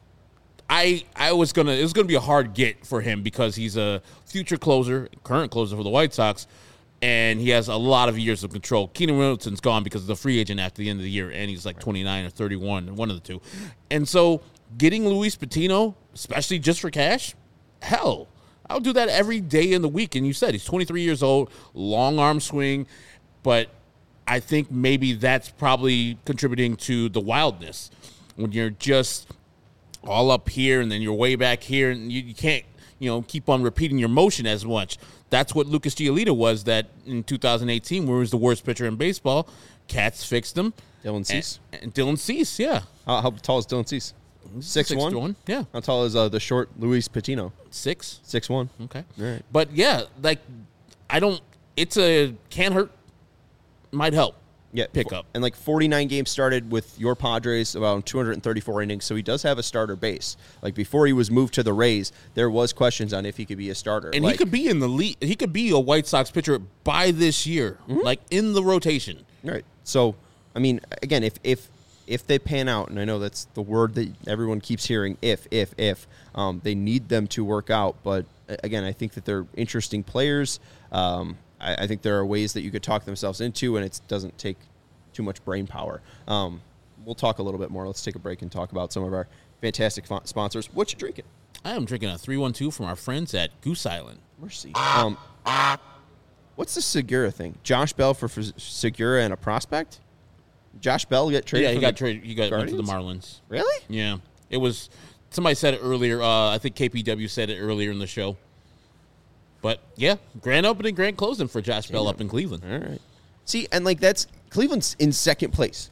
B: I I was gonna it was gonna be a hard get for him because he's a future closer, current closer for the White Sox, and he has a lot of years of control. Keenan Middleton's gone because of the free agent after the end of the year, and he's like twenty-nine or thirty-one, one of the two. And so getting Luis Patino, especially just for cash, hell, I would do that every day in the week. And you said he's twenty-three years old, long arm swing, but I think maybe that's probably contributing to the wildness when you're just all up here and then you're way back here and you, you can't, you know, keep on repeating your motion as much. That's what Lucas Giolito was that in two thousand eighteen, where he was the worst pitcher in baseball. Katz fixed him.
A: Dylan Cease.
B: And, and Dylan Cease, yeah.
A: How, how tall is Dylan Cease? Six,
B: Six
A: one?
B: to one, yeah.
A: How tall is uh, the short Luis Patino?
B: Six.
A: Six one.
B: Okay.
A: All right.
B: But yeah, like I don't. It's a can't hurt, might help.
A: Yeah,
B: pick up.
A: And like forty-nine games started with your Padres, about two hundred thirty-four innings, so he does have a starter base. Like before he was moved to the Rays, there was questions on if he could be a starter.
B: And
A: like,
B: he could be in the league. He could be a White Sox pitcher by this year,
A: Mm-hmm.
B: like in the rotation.
A: Right. So, I mean, again, if if if they pan out, and I know that's the word that everyone keeps hearing, if, if, if, um, they need them to work out. But again, I think that they're interesting players. Um, I, I think there are ways that you could talk themselves into, and it doesn't take too much brain power. Um, we'll talk a little bit more. Let's take a break and talk about some of our fantastic fo- sponsors. What you drinking?
B: I am drinking a three one two from our friends at Goose Island.
A: Mercy. Um, what's the Segura thing? Josh Bell for, for Segura and a prospect? Josh Bell get traded?
B: Yeah, he
A: from
B: got
A: the
B: traded. He got went to the
A: Guardians?
B: Marlins.
A: Really?
B: Yeah, it was. Somebody said it earlier. Uh, I think K P W said it earlier in the show. But yeah, grand opening, grand closing for Josh Bell up in Cleveland.
A: All right. See, and like that's Cleveland's in second place.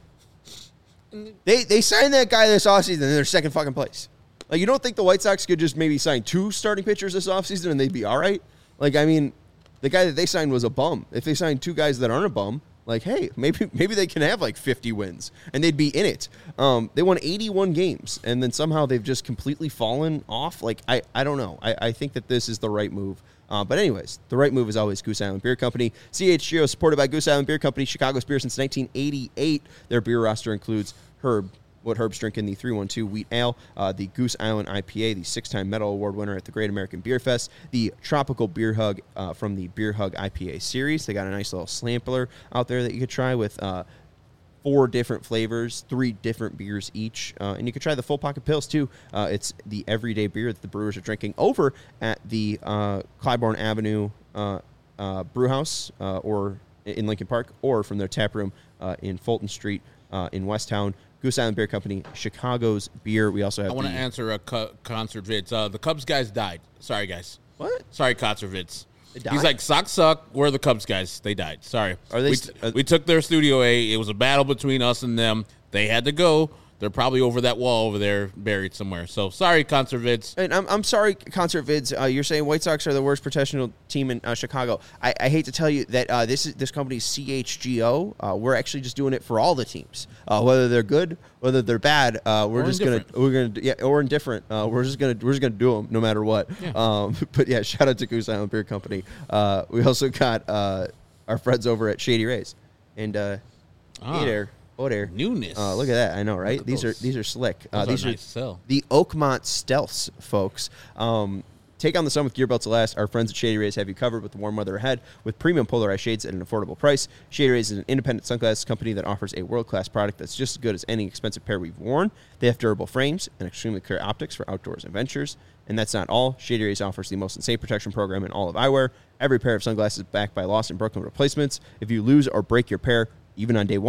A: They they signed that guy this offseason and they're second fucking place. Like you don't think the White Sox could just maybe sign two starting pitchers this offseason and they'd be all right? Like I mean, the guy that they signed was a bum. If they signed two guys that aren't a bum, like hey, maybe maybe they can have like fifty wins and they'd be in it. Um, they won eighty-one games and then somehow they've just completely fallen off. Like I, I don't know. I, I think that this is the right move. Uh, but anyways, the right move is always Goose Island Beer Company. C H G O supported by Goose Island Beer Company, Chicago's beer since nineteen eighty-eight. Their beer roster includes Herb, what Herb's drinking, the three one two Wheat Ale, uh, the Goose Island I P A, the six-time Medal Award winner at the Great American Beer Fest, the Tropical Beer Hug uh, from the Beer Hug I P A series. They got a nice little sampler out there that you could try with uh, four different flavors, three different beers each. Uh, and you can try the Full Pocket Pills, too. Uh, it's the everyday beer that the brewers are drinking over at the uh, Clybourne Avenue uh, uh, Brew House uh, or in Lincoln Park, or from their tap room uh, in Fulton Street uh, in Westtown. Goose Island Beer Company, Chicago's beer. We also have
B: I want to
A: the-
B: answer a co- concert vids. Uh, the Cubs guys died. Sorry, guys.
A: What?
B: Sorry, concert vids.
A: They died?
B: He's like, Sox suck. We're the Cubs guys. They died. Sorry.
A: Are they
B: we,
A: st- are-
B: we took their Studio A. It was a battle between us and them. They had to go. They're probably over that wall over there, buried somewhere. So sorry, concert vids.
A: And I'm, I'm sorry, Concert Vids. Uh, you're saying White Sox are the worst professional team in uh, Chicago. I, I hate to tell you that uh, this is this company's C H G O. Uh, we're actually just doing it for all the teams, uh, whether they're good, whether they're bad. Uh, we're
B: Or
A: just gonna
B: indifferent.
A: we're gonna yeah, or indifferent. Uh, we're just gonna we're just gonna do them no matter what.
B: Yeah.
A: Um, but yeah, shout out to Goose Island Beer Company. Uh, we also got uh, our friends over at Shady Rays, and uh,
B: Ah.
A: hey there. Oh, there.
B: Newness.
A: Uh, look at that. I know, right?
B: at
A: These
B: those.
A: are these are slick. Uh,
B: Those are
A: these
B: nice to sell.
A: the Oakmont Stealths, folks. Um, take on the sun with gear belts to last. Our friends at Shady Rays have you covered with the warm weather ahead with premium polarized shades at an affordable price. Shady Rays is an independent sunglasses company that offers a world-class product that's just as good as any expensive pair we've worn. They have durable frames and extremely clear optics for outdoors adventures. And that's not all. Shady Rays offers the most insane protection program in all of eyewear. Every pair of sunglasses is backed by lost and broken replacements. If you lose or break your pair, even on day one,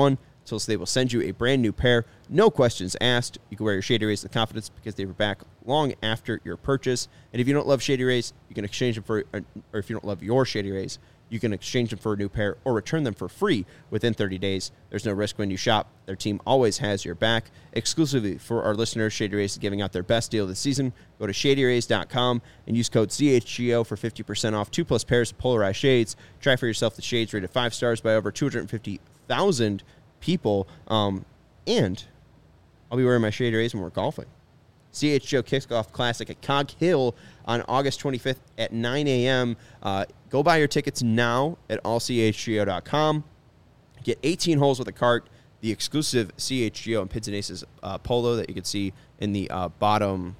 A: until they will send you a brand new pair. No questions asked. You can wear your Shady Rays with confidence because they were back long after your purchase. And if you don't love Shady Rays, you can exchange them for, or if you don't love your Shady Rays, you can exchange them for a new pair or return them for free within thirty days. There's no risk when you shop. Their team always has your back. Exclusively for our listeners, Shady Rays is giving out their best deal this season. Go to shady rays dot com and use code C H G O for fifty percent off two plus pairs of polarized shades. Try for yourself the shades rated five stars by over two hundred fifty thousand people. Um, and I'll be wearing my Shady Rays when we're golfing. C H G O Kickoff Classic at Cog Hill on August twenty-fifth at nine a.m. Uh, go buy your tickets now at all c h g o dot com. Get eighteen holes with a cart, the exclusive C H G O and Pids and Aces uh, polo that you can see in the uh, bottom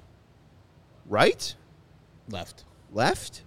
A: right?
B: Left.
A: Left?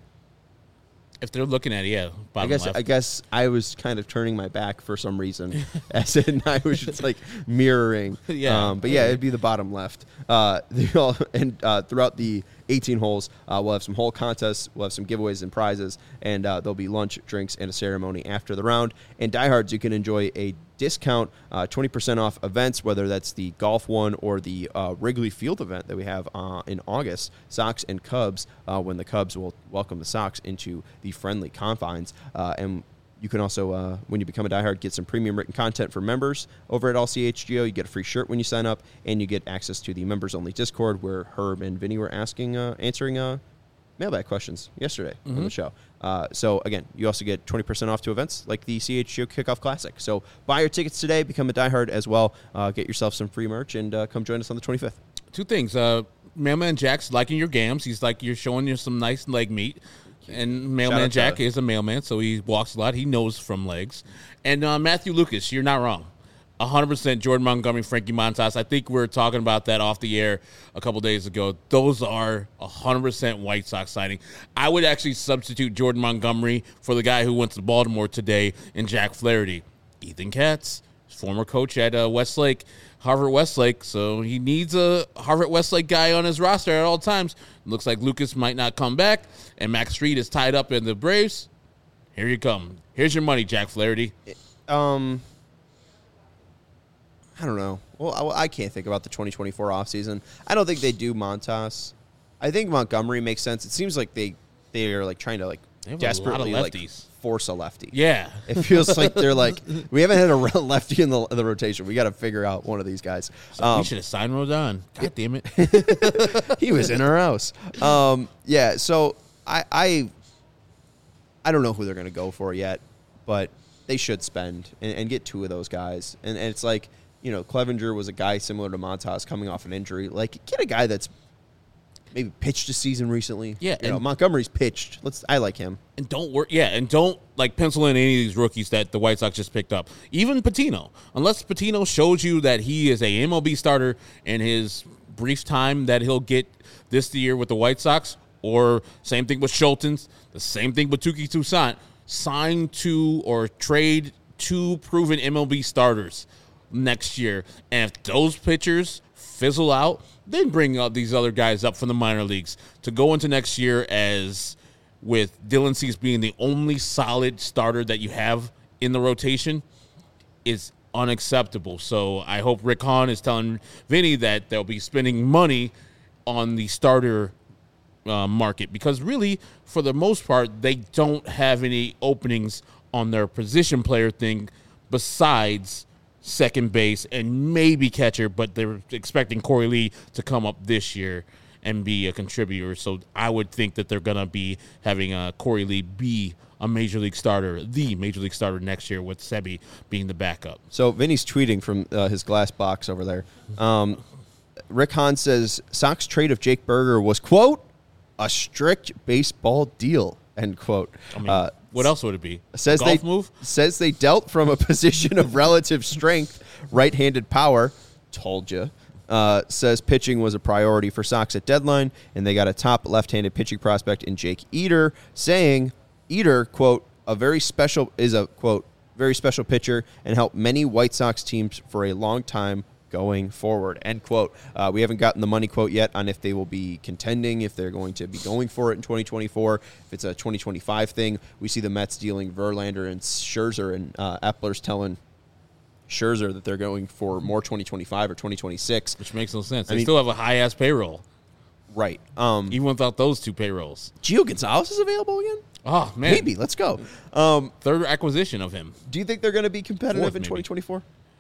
B: If they're looking at it, yeah.
A: I guess
B: left.
A: I guess I was kind of turning my back for some reason, as in I was just like mirroring.
B: Yeah.
A: Um, but yeah, it'd be the bottom left. Uh, all, and uh, throughout the eighteen holes, uh, we'll have some hole contests, we'll have some giveaways and prizes, and uh, there'll be lunch, drinks, and a ceremony after the round. And diehards, you can enjoy a discount, uh, twenty percent off events, whether that's the golf one or the uh, Wrigley Field event that we have uh, in August, Sox and Cubs, uh, when the Cubs will welcome the Sox into the friendly confines. Uh, and you can also, uh, when you become a diehard, get some premium written content for members over at All C H G O. You get a free shirt when you sign up, and you get access to the members-only Discord where Herb and Vinny were asking, uh, answering uh, mailbag questions yesterday mm-hmm. on the show. Uh, so, again, you also get twenty percent off to events like the C H G O Kickoff Classic. So, buy your tickets today, become a diehard as well, uh, get yourself some free merch, and uh, come join us on the twenty-fifth.
B: Two things. Uh, Mailman Jack's liking your gams. He's like, you're showing you some nice leg meat. And Mailman Jack is a mailman, so he walks a lot. He knows from legs. And uh, Matthew Lucas, you're not wrong. one hundred percent Jordan Montgomery, Frankie Montas. I think we were talking about that off the air a couple days ago. Those are one hundred percent White Sox signing. I would actually substitute Jordan Montgomery for the guy who went to Baltimore today in Jack Flaherty. Ethan Katz, former coach at uh, Westlake, Harvard Westlake, so he needs a Harvard Westlake guy on his roster at all times. Looks like Lucas might not come back, and Max Street is tied up in the Braves. Here you come. Here's your money, Jack Flaherty.
A: Um, I don't know. Well, I, I can't think about the twenty twenty-four offseason. I don't think they do Montas. I think Montgomery makes sense. It seems like they they are like trying to like desperately like force a lefty.
B: Yeah,
A: it feels like they're like, we haven't had a lefty in the, in the rotation. We got to figure out one of these guys.
B: So
A: um,
B: we should have signed Rodon. God damn it,
A: he was in our house. Um, yeah, so I, I I don't know who they're going to go for yet, but they should spend and, and get two of those guys. And, and it's like, you know, Clevenger was a guy similar to Montas coming off an injury. Like, get a guy that's maybe pitched a season recently.
B: Yeah,
A: you know, Montgomery's pitched. Let's. I like him.
B: And don't work. Yeah, and don't like pencil in any of these rookies that the White Sox just picked up. Even Patino, unless Patino shows you that he is a M L B starter in his brief time that he'll get this year with the White Sox, or same thing with Schultz, the same thing with Touki Toussaint. Sign two or trade two proven M L B starters next year, and if those pitchers fizzle out, then bring up these other guys up from the minor leagues to go into next year as with Dylan Cease being the only solid starter that you have in the rotation is unacceptable. So I hope Rick Hahn is telling Vinny that they'll be spending money on the starter uh, market, because really, for the most part, they don't have any openings on their position player thing besides second base and maybe catcher, but they're expecting Corey Lee to come up this year and be a contributor. So I would think that they're going to be having uh, Corey Lee be a major league starter, the major league starter next year, with Sebi being the backup.
A: So Vinny's tweeting from uh, his glass box over there. Um, Rick Hahn says Sox trade of Jake Burger was, quote, a strict baseball deal, end quote.
B: I mean,
A: uh,
B: what else would it be?
A: Says
B: Golf
A: they
B: move?
A: Says they dealt from a position of relative strength, right-handed power. Told you. Uh, says pitching was a priority for Sox at deadline, and they got a top left-handed pitching prospect in Jake Eder, saying Eder, quote, a very special is a quote very special pitcher and helped many White Sox teams for a long time going forward, end quote. Uh, we haven't gotten the money quote yet on if they will be contending, if they're going to be going for it in twenty twenty-four, if it's a twenty twenty-five thing. We see the Mets dealing Verlander and Scherzer, and uh, Epler's telling Scherzer that they're going for more twenty twenty-five or twenty twenty-six.
B: Which makes no sense. They
A: I mean-
B: still have a high-ass payroll,
A: Right. Um,
B: even without those two payrolls.
A: Gio Gonzalez is available again?
B: Oh, man.
A: Maybe. Let's go. Um,
B: Third acquisition of him.
A: do you think they're going to be competitive
B: Fourth,
A: in
B: maybe.
A: twenty twenty-four?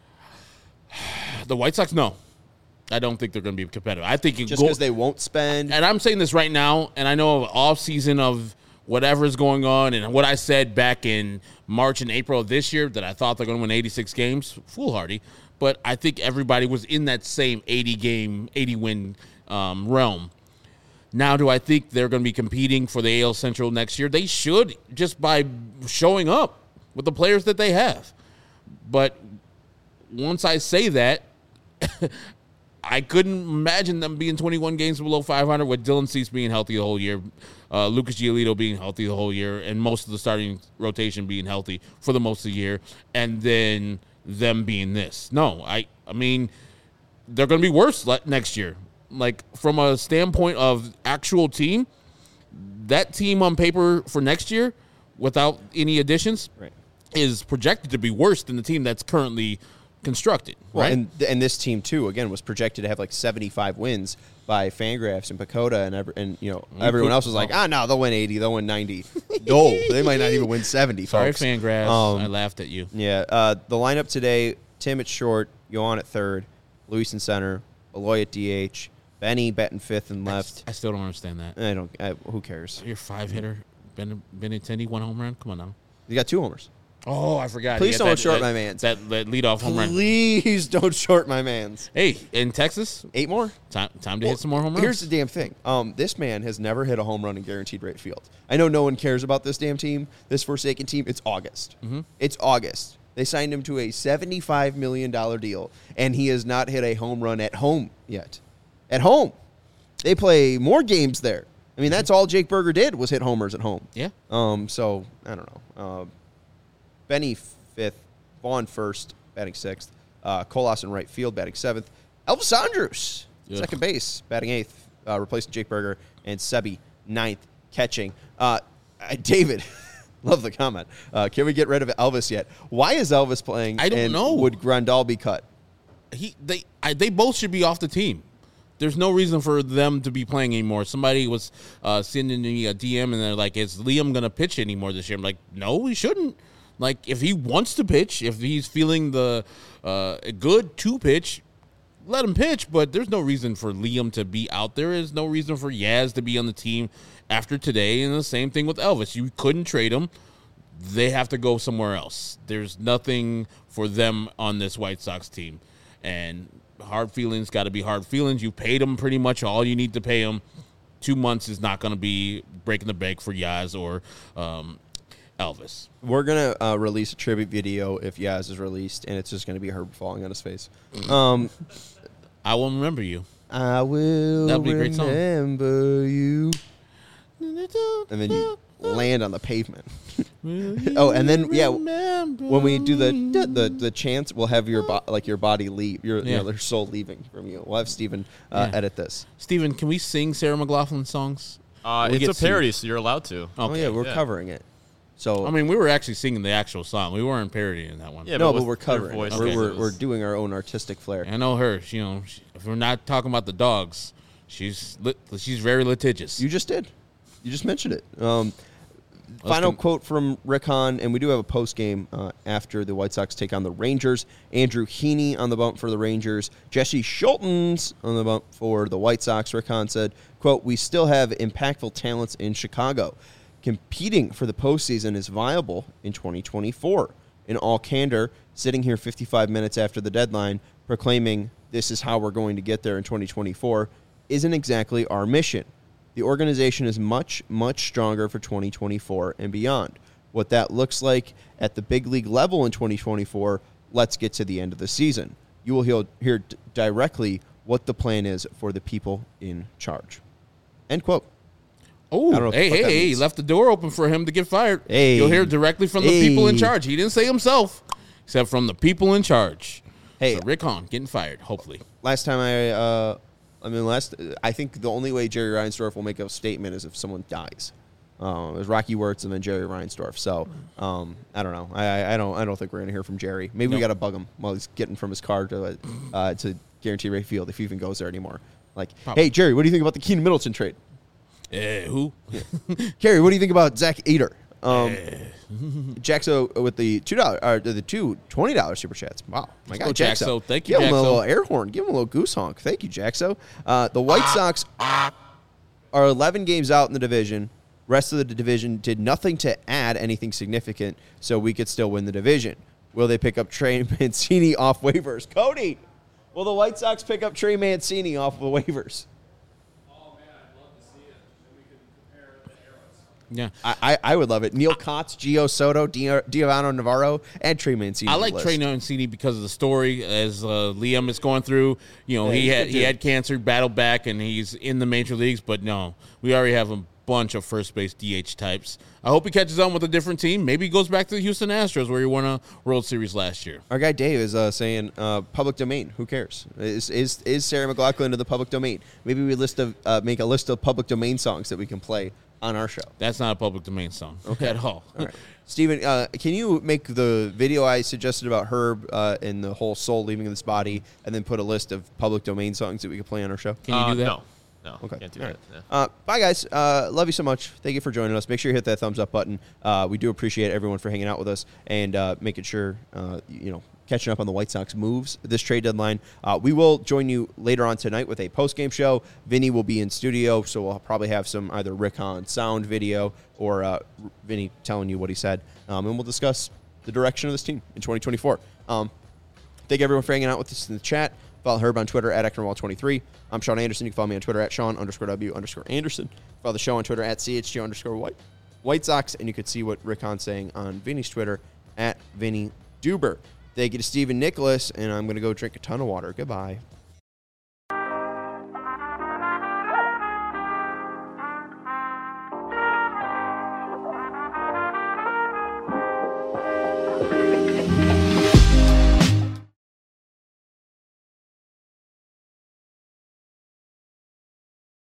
B: The White Sox, no. I don't think they're going to be competitive. I think you
A: Just
B: go,
A: because they won't spend.
B: and I'm saying this right now, and I know of off season of whatever's going on, and what I said back in March and April of this year that I thought they're going to win eighty-six games, foolhardy. But I think everybody was in that same eighty game, eighty win um, realm. Now, do I think they're going to be competing for the A L Central next year? They should, just by showing up with the players that they have. But once I say that, I couldn't imagine them being twenty-one games below five hundred with Dylan Cease being healthy the whole year, uh, Lucas Giolito being healthy the whole year, and most of the starting rotation being healthy for the most of the year, and then them being this. No, I, I mean, they're going to be worse le- next year. Like, from a standpoint of actual team, that team on paper for next year, without any additions,
A: Right.
B: is projected to be worse than the team that's currently constructed.
A: Well,
B: right?
A: and and this team too, again, was projected to have like seventy-five wins by Fangraphs and Pacoda, and every, and you know everyone else was like, ah, no, they'll win eighty, they'll win ninety. No, they might not even win seventy.
B: Sorry,
A: folks.
B: Fangraphs.
A: Um,
B: I laughed at you.
A: Yeah, uh, the lineup today: Tim at short, Yohan at third, Luis in center, Eloy at D H, Benny batting fifth and left.
B: I still don't understand that.
A: I don't. I, who cares?
B: Your five hitter, Ben Benintendi, one home run. Come on now.
A: You got two homers.
B: Oh, I forgot.
A: Please
B: He got
A: don't
B: that-
A: short
B: that-
A: my mans.
B: That, that leadoff home run.
A: Please don't short my man's.
B: Hey, in Texas,
A: Eight more.
B: time time to hit some more home runs.
A: Here's the damn thing. Um, this man has never hit a home run in guaranteed rate field. I know no one cares about this damn team, this Forsaken team. It's August.
B: Mm-hmm.
A: It's August. They signed him to a seventy-five million dollars deal, and he has not hit a home run at home yet. At home. They play more games there. I mean, that's all Jake Berger did was hit homers at home.
B: Yeah.
A: Um. So, I don't know. Uh, Benny fifth, Vaughn first, batting sixth, uh, Colas in right field, batting seventh, Elvis Andrus,
B: Ugh.
A: second base, batting eighth, uh, replacing Jake Berger, and Sebi ninth, catching. Uh, uh, David, love the comment. Uh, can we get rid of Elvis yet? Why is Elvis playing?
B: I don't
A: and
B: know.
A: Would Grandal be cut?
B: he they I, they both should be off the team. There's no reason for them to be playing anymore. Somebody was uh, sending me a D M and they're like, "Is Liam gonna pitch anymore this year?" I'm like, "No, he shouldn't." Like, if he wants to pitch, if he's feeling the uh, good to pitch, let him pitch. But there's no reason for Liam to be out there. There's no reason for Yaz to be on the team after today. And the same thing with Elvis. You couldn't trade him. They have to go somewhere else. There's nothing for them on this White Sox team. And hard feelings got to be hard feelings. You paid them pretty much all you need to pay them. Two months is not going to be breaking the bank for Yaz or um, Elvis.
A: We're gonna uh, release a tribute video if Yaz is released, and it's just gonna be Herb falling on his face. Um,
B: I will remember you.
A: I will
B: That'd be a great song.
A: remember you. And then you land on the pavement. Oh, and then yeah, when we do the the the chants, we'll have your bo- like your body leave, your
B: Yeah.
A: you know, your soul leaving from you. We'll have Steven uh,
B: Yeah.
A: edit this.
B: Steven, can we sing Sarah McLaughlin songs?
C: Uh,
B: We
C: it's
B: get
C: a
B: sued.
C: parody, so you're allowed to.
A: Oh
B: Okay.
A: yeah, we're
C: yeah.
A: covering it. So
B: I mean, we were actually singing the actual song. We weren't parodying that one.
C: Yeah,
A: no,
C: but
A: but
C: with
A: we're
C: your
A: covering. it.
C: voice,
A: We're,
B: okay.
A: we're
C: it
A: we're
C: was-
A: doing our own artistic flair.
B: I know her. She, you know, she, if we're not talking about the dogs, she's lit, she's very litigious.
A: You just did. You just mentioned it. Um,
B: Let's
A: final
B: do-
A: quote from Rick Hahn, and we do have a post game uh, after the White Sox take on the Rangers. Andrew Heaney on the bump for the Rangers. Jesse Schultens on the bump for the White Sox. Rick Hahn said, quote, "We still have impactful talents in Chicago. Competing for the postseason is viable in twenty twenty-four. In all candor, sitting here fifty-five minutes after the deadline, proclaiming this is how we're going to get there in twenty twenty-four isn't exactly our mission. The organization is much, much stronger for twenty twenty-four and beyond. What that looks like at the big league level in twenty twenty-four, let's get to the end of the season. You will hear, hear d- directly what the plan is for the people in charge." End quote. I don't know
B: Oh,
A: what
B: hey,
A: the fuck
B: hey,
A: that
B: hey! He
A: means.
B: left the door open for him to get fired.
A: Hey.
B: You'll hear directly from the people in
A: Hey.
B: charge. He didn't say himself, except from the people in charge.
A: Hey.
B: So Rick Hahn getting fired, hopefully.
A: Last time I, uh, I mean, last, I think the only way Jerry Reinsdorf will make a statement is if someone dies. Uh, it was Rocky Wirtz and then Jerry Reinsdorf. So um, I don't know. I, I don't I don't think we're gonna hear from Jerry. Maybe
B: Nope.
A: we got to bug him while he's getting from his car to uh, to Guaranteed Rate Field if he even goes there anymore. Like,
B: Probably.
A: hey Jerry, what do you think about the Keenan Middleton trade?
B: Eh, who?
A: Kerry, what do you think about Zach Ader? Um, Jaxo with the two dollar or the two twenty dollar super chats. Wow, my
B: Let's
A: God,
B: go,
A: Jaxo.
B: Jaxo. Thank you,
A: Give him a
B: Jaxo.
A: little air horn. Give him a little goose honk. Thank you, Jaxo. Uh, the White Sox are eleven games out in the division. Rest of the division did nothing to add anything significant, so we could still win the division. Will they pick up Trey Mancini off waivers? Cody, will the White Sox pick up Trey Mancini off the waivers?
B: Yeah.
A: I, I, I would love it. Neil Kotz, Gio Soto, Di- Giovanni Navarro, and Trey Mancini.
B: I
A: on the
B: like
A: list.
B: Trey Mancini because of the story as uh, Liam is going through. You know,
A: Yeah,
B: he
A: he's
B: had
A: good
B: he
A: too.
B: had cancer, battled back, and he's in the major leagues. But no, we already have a bunch of first base D H types. I hope he catches on with a different team. Maybe he goes back to the Houston Astros where he won a World Series last year.
A: Our guy Dave is uh, saying uh, public domain. Who cares? Is is is Sarah McLaughlin in the public domain? Maybe we list of uh, make a list of public domain songs that we can play on our show.
B: That's not a public domain song at all.
A: All right. Steven, uh, can you make the video I suggested about Herb uh, and the whole soul leaving this body, and then put a list of public domain songs that we could play on our show?
B: Can you
C: Uh,
B: do that?
C: No, no,
A: Okay.
C: can't do
A: All
C: that.
A: right.
C: Yeah.
A: Uh, bye, guys. Uh, love you so much. Thank you for joining us. Make sure you hit that thumbs up button. Uh, we do appreciate everyone for hanging out with us and uh, making sure, uh, you know, catching up on the White Sox moves this trade deadline. Uh, we will join you later on tonight with a post-game show. Vinny will be in studio, so we'll probably have some either Rick Hahn sound video or uh, Vinny telling you what he said. Um, and we'll discuss the direction of this team in twenty twenty-four. Um, thank everyone for hanging out with us in the chat. Follow Herb on Twitter at Eknerwall twenty-three. I'm Sean Anderson. You can follow me on Twitter at Sean underscore W underscore Anderson. Follow the show on Twitter at C H G underscore White, White Sox. And you could see what Rick Hahn's saying on Vinny's Twitter at Vinny Duber. Thank you to Stephen Nicholas, and I'm going to go drink a ton of water. Goodbye.